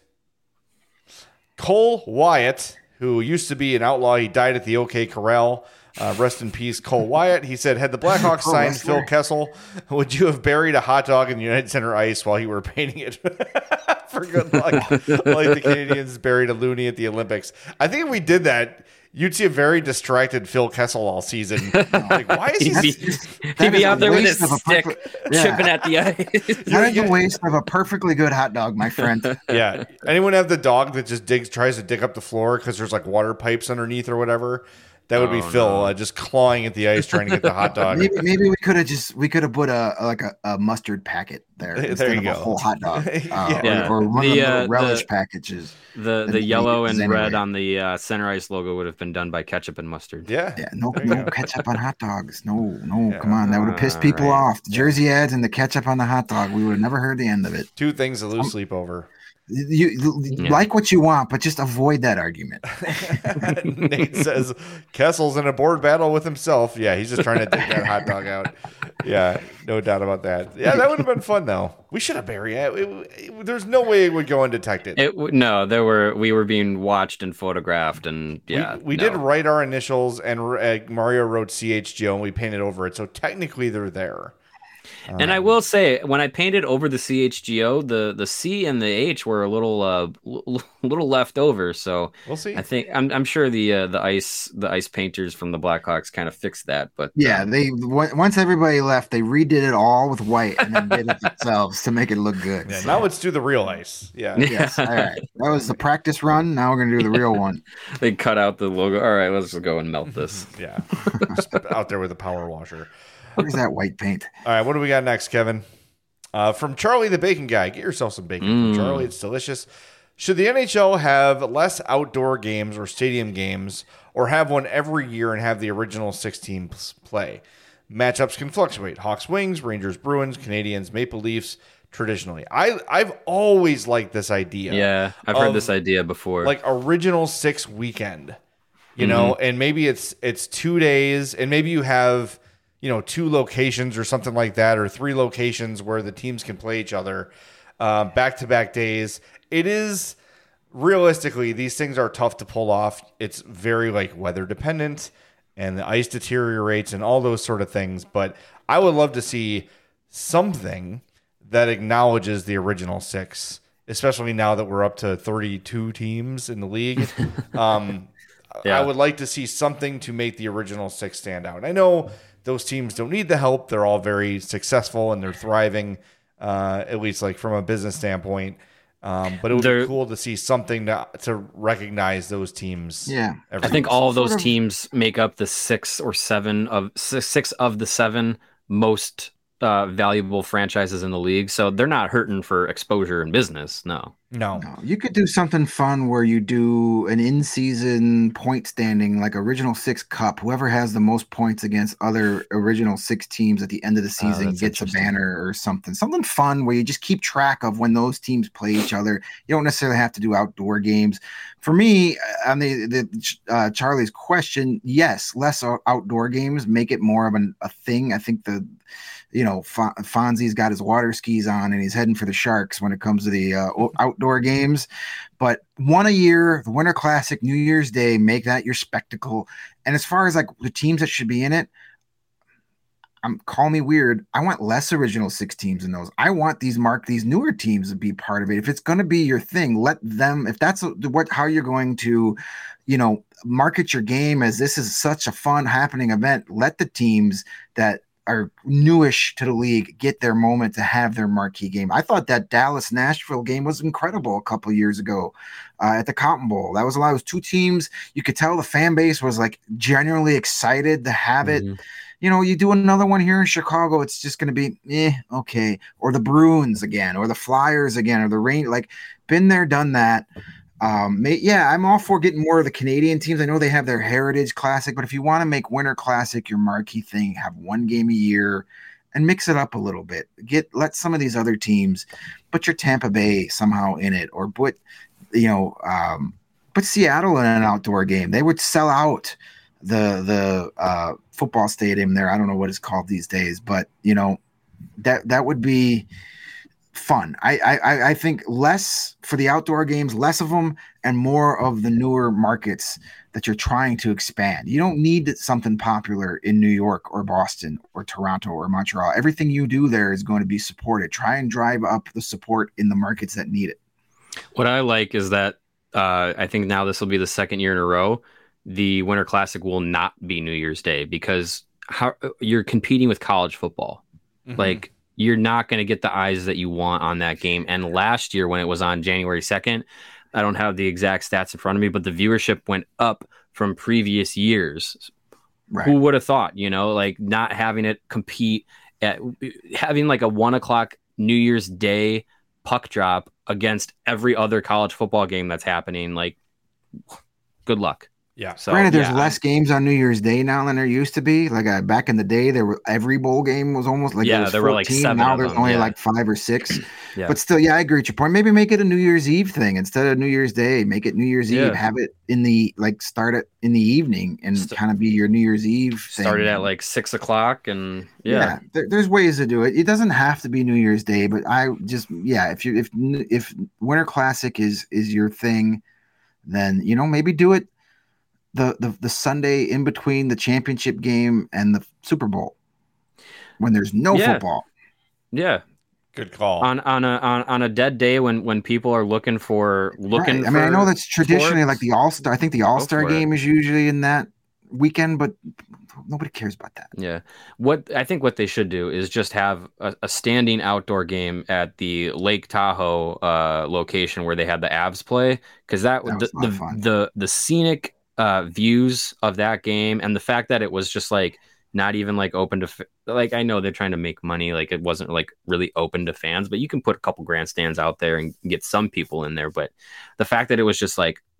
Speaker 1: Cole Wyatt, who used to be an outlaw. He died at the OK Corral. Uh, rest in peace, Cole Wyatt. He said, had the Blackhawks
Speaker 3: Oh,
Speaker 1: signed
Speaker 3: wrestler.
Speaker 1: Phil Kessel, would you have buried a hot dog in United Center ice while you were painting it for good luck? Like the Canadians buried a loony at the Olympics. I think if we did that, you'd see a very distracted Phil Kessel all season. Like, why is he...
Speaker 2: He'd be,
Speaker 3: just-
Speaker 2: he'd
Speaker 3: that
Speaker 2: be
Speaker 3: is
Speaker 2: out
Speaker 3: a
Speaker 2: there with
Speaker 3: waste
Speaker 2: his
Speaker 3: of a
Speaker 2: stick
Speaker 3: perfect- yeah.
Speaker 2: chipping at the ice.
Speaker 3: That is a waste of a perfectly good hot dog, my friend.
Speaker 1: Yeah. Anyone have the dog that just digs, tries to dig up the floor because there's like water pipes underneath or whatever? That would be
Speaker 2: Oh,
Speaker 1: Phil
Speaker 2: no.
Speaker 1: uh, just clawing at the ice trying to get the hot dog.
Speaker 3: Maybe, maybe we could have just we could have put a, a like a, a mustard packet there,
Speaker 1: There
Speaker 3: instead
Speaker 1: you
Speaker 3: of
Speaker 1: go.
Speaker 3: a whole hot dog, uh,
Speaker 2: Yeah.
Speaker 3: or, or one of
Speaker 2: The,
Speaker 3: the
Speaker 2: uh,
Speaker 3: little relish
Speaker 2: the-
Speaker 3: packages.
Speaker 2: The
Speaker 3: Then
Speaker 2: the
Speaker 3: we
Speaker 2: yellow
Speaker 3: use
Speaker 2: and red
Speaker 3: anyway.
Speaker 2: on the uh, center ice logo would have been done by ketchup and mustard.
Speaker 1: Yeah.
Speaker 3: Yeah, no,
Speaker 1: There you
Speaker 3: no
Speaker 1: go.
Speaker 3: ketchup on hot dogs. No, no,
Speaker 1: Yeah.
Speaker 3: come on, that would have pissed people
Speaker 2: Alright.
Speaker 3: off. The jersey ads and the ketchup on the hot dog, we would have never heard the end of it.
Speaker 1: Two things to lose sleep over.
Speaker 3: You, you
Speaker 2: Yeah.
Speaker 3: like what you want, but just avoid that argument.
Speaker 1: Nate says Kessel's in a board battle with himself. Yeah, he's just trying to dig that hot dog out. Yeah, no doubt about that. Yeah, that would have been fun though. We should have buried it. It- it- There's no way it would go undetected.
Speaker 2: It w- no, there were we were being watched and photographed, and yeah,
Speaker 1: we we
Speaker 2: no.
Speaker 1: did write our initials, and uh, Mario wrote C H G O, and we painted over it. So technically, they're there.
Speaker 2: And I will say, when I painted over the C H G O, the the C and the H were a little uh l- little left over. So
Speaker 1: We'll see.
Speaker 2: I think I'm I'm sure the uh, the ice the ice painters from the Blackhawks kind of fixed that. But
Speaker 3: Yeah,
Speaker 2: um,
Speaker 3: they w- once everybody left, they redid it all with white and then did it themselves to make it look good.
Speaker 1: Yeah,
Speaker 3: So,
Speaker 1: now let's do the real ice. Yeah.
Speaker 3: yes, all right. That was the practice run. Now we're gonna do the real one.
Speaker 2: they cut out the logo. All right, let's just go and melt this.
Speaker 1: Yeah. Just out there with a power washer.
Speaker 3: Where's that white paint?
Speaker 1: All right, what do we got next, Kevin? Uh, from Charlie the Bacon Guy. Get yourself some bacon
Speaker 2: Mm.
Speaker 1: from Charlie. It's delicious. Should the N H L have less outdoor games or stadium games, or have one every year and have the original six teams play? matchups can fluctuate. Hawks, Wings, Rangers, Bruins, Canadians, Maple Leafs. Traditionally, I I've always liked this idea.
Speaker 2: Yeah, I've heard this idea before.
Speaker 1: Like original six weekend, you mm-hmm. know, and maybe it's it's two days, and maybe you have you know two locations or something like that, or three locations where the teams can play each other back to back days. It is realistically, these things are tough to pull off. It's very like weather dependent, and the ice deteriorates, and all those sort of things. But I would love to see something that acknowledges the original six, especially now that we're up to thirty-two teams in the league. Um, yeah. I would like to see something to make the original six stand out. And I know those teams don't need the help. They're all very successful and they're thriving, uh, at least like from a business standpoint. Um, but it would they're, be cool to see something to, to recognize those teams.
Speaker 3: Yeah.
Speaker 2: I think all of those sort of teams make up the six or seven of six of the seven most Uh, valuable franchises in the league, so they're not hurting for exposure in business. No.
Speaker 1: no,
Speaker 3: no. You could do something fun where you do an in-season point standing, like original six cup. Whoever has the most points against other original six teams at the end of the season oh, gets a banner or something. Something fun where you just keep track of when those teams play each other. You don't necessarily have to do outdoor games. For me, on the, the uh, Charlie's question, yes, less outdoor games make it more of an, a thing. I think the You know, Fonzie's got his water skis on and he's heading for the Sharks when it comes to the uh, outdoor games. But one a year, the Winter Classic, New Year's Day, make that your spectacle. And as far as like the teams that should be in it, I'm call me weird. I want less original six teams in those. I want these mark these newer teams to be part of it. If it's going to be your thing, let them. If that's what how you're going to, you know, market your game as this is such a fun happening event. Let the teams that are newish to the league get their moment to have their marquee game. I thought that Dallas Nashville game was incredible a couple of years ago uh, at the Cotton Bowl. That was a lot. It was two teams. You could tell the fan base was like genuinely excited to have mm-hmm. it. You know, you do another one here in Chicago, it's just going to be eh, okay. Or the Bruins again, or the Flyers again, or the Rain. Like, been there, done that. Um, may, yeah, I'm all for getting more of the Canadian teams. I know they have their Heritage Classic, but if you want to make Winter Classic your marquee thing, have one game a year and mix it up a little bit. Get let some of these other teams put your Tampa Bay somehow in it, or put you know um, put Seattle in an outdoor game. They would sell out the the uh, football stadium there. I don't know what it's called these days, but you know that that would be fun. I, I I think less for the outdoor games, less of them, and more of the newer markets that you're trying to expand. You don't need something popular in New York or Boston or Toronto or Montreal. Everything you do there is going to be supported. Try and drive up the support in the markets that need it.
Speaker 2: What I like is that uh, I think now this will be the second year in a row the Winter Classic will not be New Year's Day, because how you're competing with college football. Mm-hmm. Like, you're not going to get the eyes that you want on that game. And last year when it was on January second, I don't have the exact stats in front of me, but the viewership went up from previous years. Right. Who would have thought, you know, like not having it compete at having like a one o'clock New Year's Day puck drop against every other college football game that's happening. Like, good luck.
Speaker 1: Yeah.
Speaker 3: So, Granted, there's yeah, less games on New Year's Day now than there used to be. Like uh, back in the day, there were every bowl game was almost like
Speaker 2: yeah,
Speaker 3: there,
Speaker 2: there were like seven.
Speaker 3: Now there's
Speaker 2: them,
Speaker 3: only
Speaker 2: yeah.
Speaker 3: like five or six.
Speaker 2: yeah.
Speaker 3: But still, yeah, I agree with your point. Maybe make it a New Year's Eve thing instead of New Year's Day. Make it New Year's
Speaker 2: yeah.
Speaker 3: Eve. Have it in the like start it in the evening and St- kind of be your New Year's Eve thing.
Speaker 2: Started at like six o'clock and yeah,
Speaker 3: yeah there, there's ways to do it. It doesn't have to be New Year's Day, but I just yeah, if you if if Winter Classic is is your thing, then you know maybe do it. The, the the Sunday in between the championship game and the Super Bowl, when there's no
Speaker 2: yeah.
Speaker 3: football.
Speaker 2: Yeah,
Speaker 1: good call.
Speaker 2: On on a on, on a dead day when, when people are looking for looking.
Speaker 3: Right. I mean, I know that's traditionally sports. Like the All Star. I think the All Star game
Speaker 2: it.
Speaker 3: is usually in that weekend, but nobody cares about that.
Speaker 2: Yeah, what I think what they should do is just have a, a standing outdoor game at the Lake Tahoe uh, location where they had the Avs play, because that, that the the, the the scenic. Uh, views of that game, and the fact that it was just like not even like open to f- like I know they're trying to make money, like it wasn't like really open to fans, but you can put a couple grandstands out there and get some people in there. But the fact that it was just like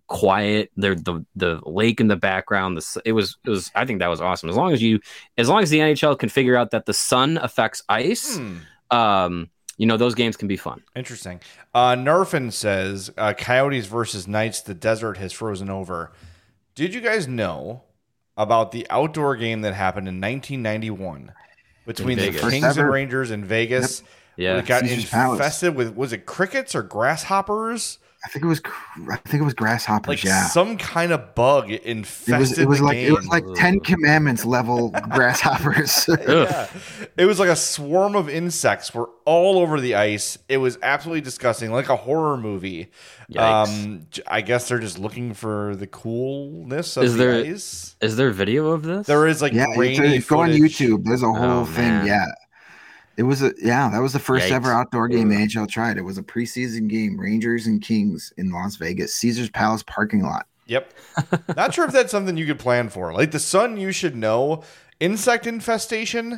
Speaker 2: quiet. There, the the lake in the background. The it was it was. I think that was awesome. As long as you, as long as the N H L can figure out that the sun affects ice,
Speaker 1: Hmm.
Speaker 2: um, you know, those games can be fun.
Speaker 1: Interesting. Uh, Nerfin says uh, Coyotes versus Knights. The desert has frozen over. Did you guys know about the outdoor game that happened in nineteen ninety-one between the
Speaker 2: Vegas.
Speaker 3: First
Speaker 1: Kings and
Speaker 3: ever.
Speaker 1: Rangers in Vegas?
Speaker 2: Yeah.
Speaker 1: It got
Speaker 3: Caesar's Palace.
Speaker 1: infested with, was it crickets or grasshoppers?
Speaker 3: I think it was. cr- I think it was grasshoppers.
Speaker 1: Like
Speaker 3: yeah.
Speaker 1: some kind of bug infested
Speaker 3: It was. It was
Speaker 1: the
Speaker 3: like.
Speaker 1: game.
Speaker 3: It was like Ten Commandments level grasshoppers.
Speaker 1: Yeah. It was like a swarm of insects were all over the ice. It was absolutely disgusting, like a horror movie.
Speaker 2: Yikes.
Speaker 1: Um, j- I guess they're just looking for the coolness of
Speaker 2: Is
Speaker 1: the
Speaker 2: there-
Speaker 1: ice.
Speaker 2: Is there video of this?
Speaker 1: There is like
Speaker 3: yeah, you
Speaker 1: grainy
Speaker 3: go on
Speaker 1: footage.
Speaker 3: YouTube. There's a whole
Speaker 2: Oh,
Speaker 3: thing.
Speaker 2: man.
Speaker 3: Yeah, it was a yeah. That was the first
Speaker 2: Yikes.
Speaker 3: ever outdoor game the N H L tried. It was a preseason game, Rangers and Kings in Las Vegas, Caesar's Palace parking lot.
Speaker 1: Yep. Not sure if that's something you could plan for. Like the sun, you should know. Insect infestation.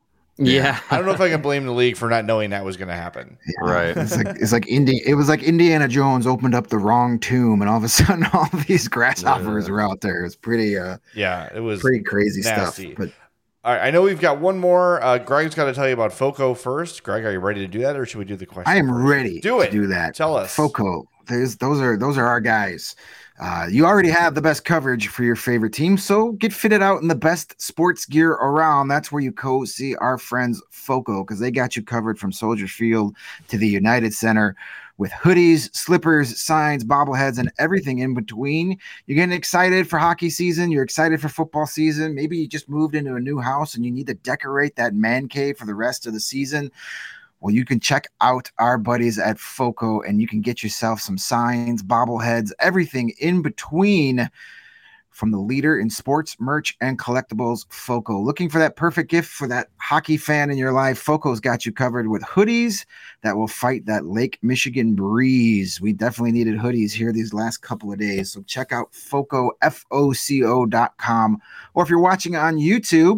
Speaker 2: Yeah.
Speaker 1: I don't know if I can blame the league for not knowing that was going to happen.
Speaker 3: Yeah,
Speaker 2: Right.
Speaker 3: It's like it's like Indi- It was like Indiana Jones opened up the wrong tomb, and all of a sudden, all of these grasshoppers
Speaker 2: Yeah.
Speaker 3: were out there. It was pretty uh
Speaker 1: Yeah, it was.
Speaker 3: pretty crazy
Speaker 1: nasty.
Speaker 3: stuff. But
Speaker 1: All right, I know we've got one more. Uh, Greg's got to tell you about Foco first. Greg, are you ready to do that, or should we do the question?
Speaker 3: I am
Speaker 1: first?
Speaker 3: ready
Speaker 1: Do it.
Speaker 3: to do that.
Speaker 1: Tell us.
Speaker 3: Foco. There's those are those are our guys. Uh, you already have the best coverage for your favorite team, so get fitted out in the best sports gear around. That's where you go see our friends Foco, because they got you covered from Soldier Field to the United Center with hoodies, slippers, signs, bobbleheads, and everything in between. You're getting excited for hockey season. You're excited for football season. Maybe you just moved into a new house and you need to decorate that man cave for the rest of the season. Well, you can check out our buddies at Foco and you can get yourself some signs, bobbleheads, everything in between from the leader in sports, merch, and collectibles, Foco. Looking for that perfect gift for that hockey fan in your life? Foco's got you covered with hoodies that will fight that Lake Michigan breeze. We definitely needed hoodies here these last couple of days. So check out Foco, F O C O dot com. Or if you're watching on YouTube,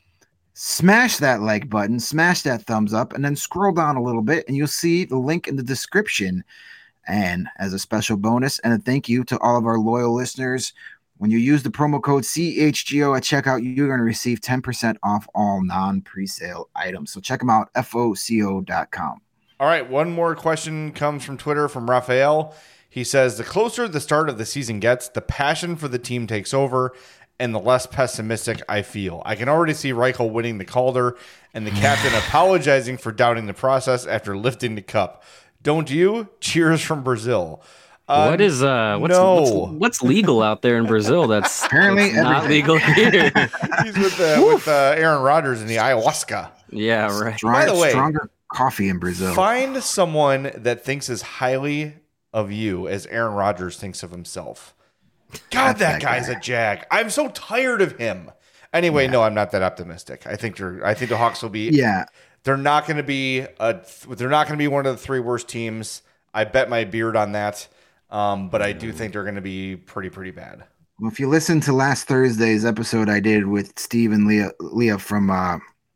Speaker 3: smash that like button, smash that thumbs up, and then scroll down a little bit and you'll see the link in the description. And as a special bonus and a thank you to all of our loyal listeners, when you use the promo code C H G O at checkout, you're going to receive ten percent off all non-presale items. So check them out, F O C O dot com.
Speaker 1: All right, one more question comes from Twitter from Raphael. He says, the closer the start of the season gets, the passion for the team takes over and the less pessimistic I feel. I can already see Reichel winning the Calder and the captain apologizing for doubting the process after lifting the cup. Don't you? Cheers from Brazil. Uh,
Speaker 2: what is uh what's,
Speaker 1: no.
Speaker 2: what's what's legal out there in Brazil that's
Speaker 3: Apparently
Speaker 2: that's not
Speaker 3: everything.
Speaker 2: legal here?
Speaker 1: He's with, uh, with uh, Aaron Rodgers in the ayahuasca.
Speaker 2: Yeah, right.
Speaker 1: By the way,
Speaker 3: stronger coffee in Brazil.
Speaker 1: Find someone that thinks as highly of you as Aaron Rodgers thinks of himself. God,
Speaker 3: That's
Speaker 1: that
Speaker 3: that
Speaker 1: guy's
Speaker 3: guy.
Speaker 1: a jag. I'm so tired of him. Anyway, no, I'm not that optimistic. I think they're. I think the Hawks will be.
Speaker 3: Yeah.
Speaker 1: They're not going to be a. They're not going to be one of the three worst teams. I bet my beard on that. Um, but I do think they're going to be pretty, pretty bad.
Speaker 3: Well, if you listen to last Thursday's episode I did with Steve and Leah, Leah from uh,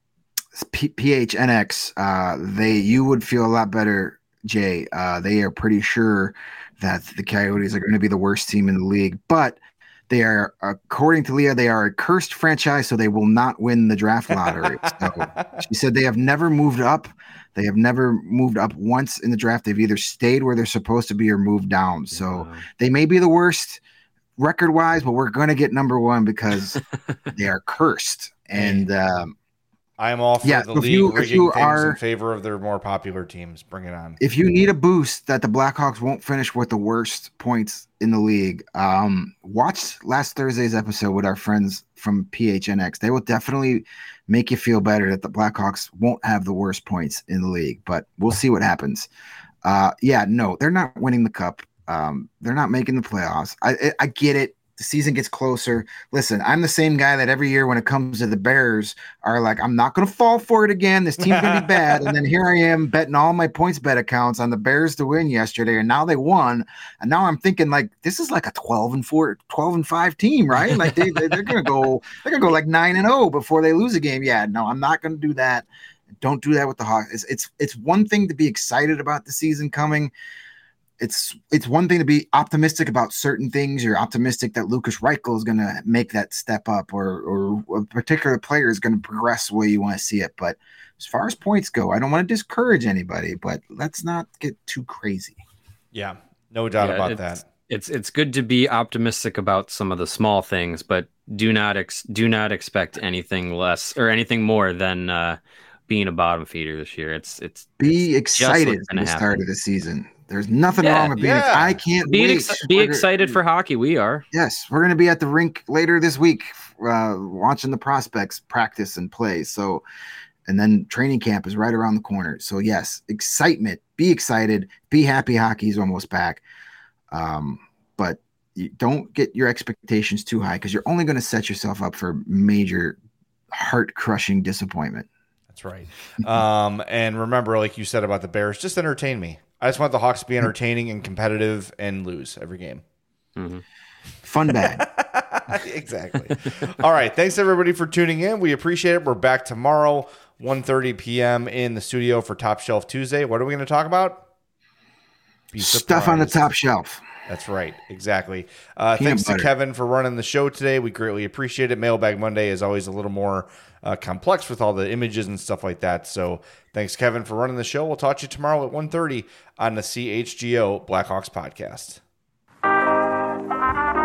Speaker 3: P- PHNX, uh, they you would feel a lot better, Jay. Uh, they are pretty sure that the Coyotes are going to be the worst team in the league, but they are, according to Leah, they are a cursed franchise, so they will not win the draft lottery. So she said they have never moved up. They have never moved up once in the draft. They've either stayed where they're supposed to be or moved down. So
Speaker 2: Wow.
Speaker 3: they may be the worst record-wise, but we're going to get number one because they are cursed. And um,
Speaker 1: I'm all for
Speaker 3: Yeah,
Speaker 1: the
Speaker 3: if
Speaker 1: league
Speaker 3: you- if
Speaker 1: rigging
Speaker 3: you
Speaker 1: things
Speaker 3: are-
Speaker 1: in favor of their more popular teams. Bring it on.
Speaker 3: if you need a boost that the Blackhawks won't finish with the worst points in the league, um, watch last Thursday's episode with our friends from P H N X. They will definitely make you feel better that the Blackhawks won't have the worst points in the league, but we'll see what happens. Uh, yeah, no, they're not winning the cup. Um, they're not making the playoffs. I, I, I get it. The season gets closer. Listen, I'm the same guy that every year when it comes to the Bears are like, I'm not going to fall for it again. This team's going to be bad. And then here I am betting all my points bet accounts on the Bears to win yesterday. And now they won. And now I'm thinking like, this is like a twelve and four, twelve and five team, right? Like they, they, they're going to go, they're going to go like nine and oh before they lose a game. Yeah, no, I'm not going to do that. Don't do that with the Hawks. It's, it's, it's one thing to be excited about the season coming. it's it's one thing to be optimistic about certain things. You're optimistic that Lucas Reichel is going to make that step up, or or a particular player is going to progress the way you want to see it. But as far as points go, I don't want to discourage anybody, but let's not get too crazy.
Speaker 1: Yeah, no doubt
Speaker 2: Yeah,
Speaker 1: about
Speaker 2: it's,
Speaker 1: that.
Speaker 2: It's it's good to be optimistic about some of the small things, but do not ex- do not expect anything less or anything more than uh, being a bottom feeder this year. It's it's
Speaker 3: Be
Speaker 2: it's
Speaker 3: excited for the start of the season. There's nothing
Speaker 2: Yeah,
Speaker 3: wrong with being.
Speaker 1: yeah.
Speaker 3: I can't
Speaker 2: be
Speaker 3: wait.
Speaker 2: ex- be
Speaker 3: We're
Speaker 2: excited
Speaker 3: gonna,
Speaker 2: for hockey. We are.
Speaker 3: Yes, we're going to be at the rink later this week, uh, watching the prospects practice and play. So, and then training camp is right around the corner. So yes, excitement. Be excited. Be happy. Hockey's almost back. Um, but you don't get your expectations too high because you're only going to set yourself up for major heart-crushing disappointment.
Speaker 1: That's right. Um, and remember, like you said about the Bears, just entertain me. I just want the Hawks to be entertaining and competitive and lose every game.
Speaker 2: Mm-hmm.
Speaker 3: Fun bad.
Speaker 1: Exactly. All right. Thanks, everybody, for tuning in. We appreciate it. We're back tomorrow, one thirty p.m. in the studio for Top Shelf Tuesday. What are we going to talk about? Be
Speaker 3: Stuff on the
Speaker 1: surprised.
Speaker 3: top shelf.
Speaker 1: That's right. Exactly. Uh,
Speaker 3: Peanut
Speaker 1: thanks
Speaker 3: butter.
Speaker 1: to Kevin for running the show today. We greatly appreciate it. Mailbag Monday is always a little more uh, complex with all the images and stuff like that. So thanks, Kevin, for running the show. We'll talk to you tomorrow at one thirty on the C H G O Blackhawks podcast.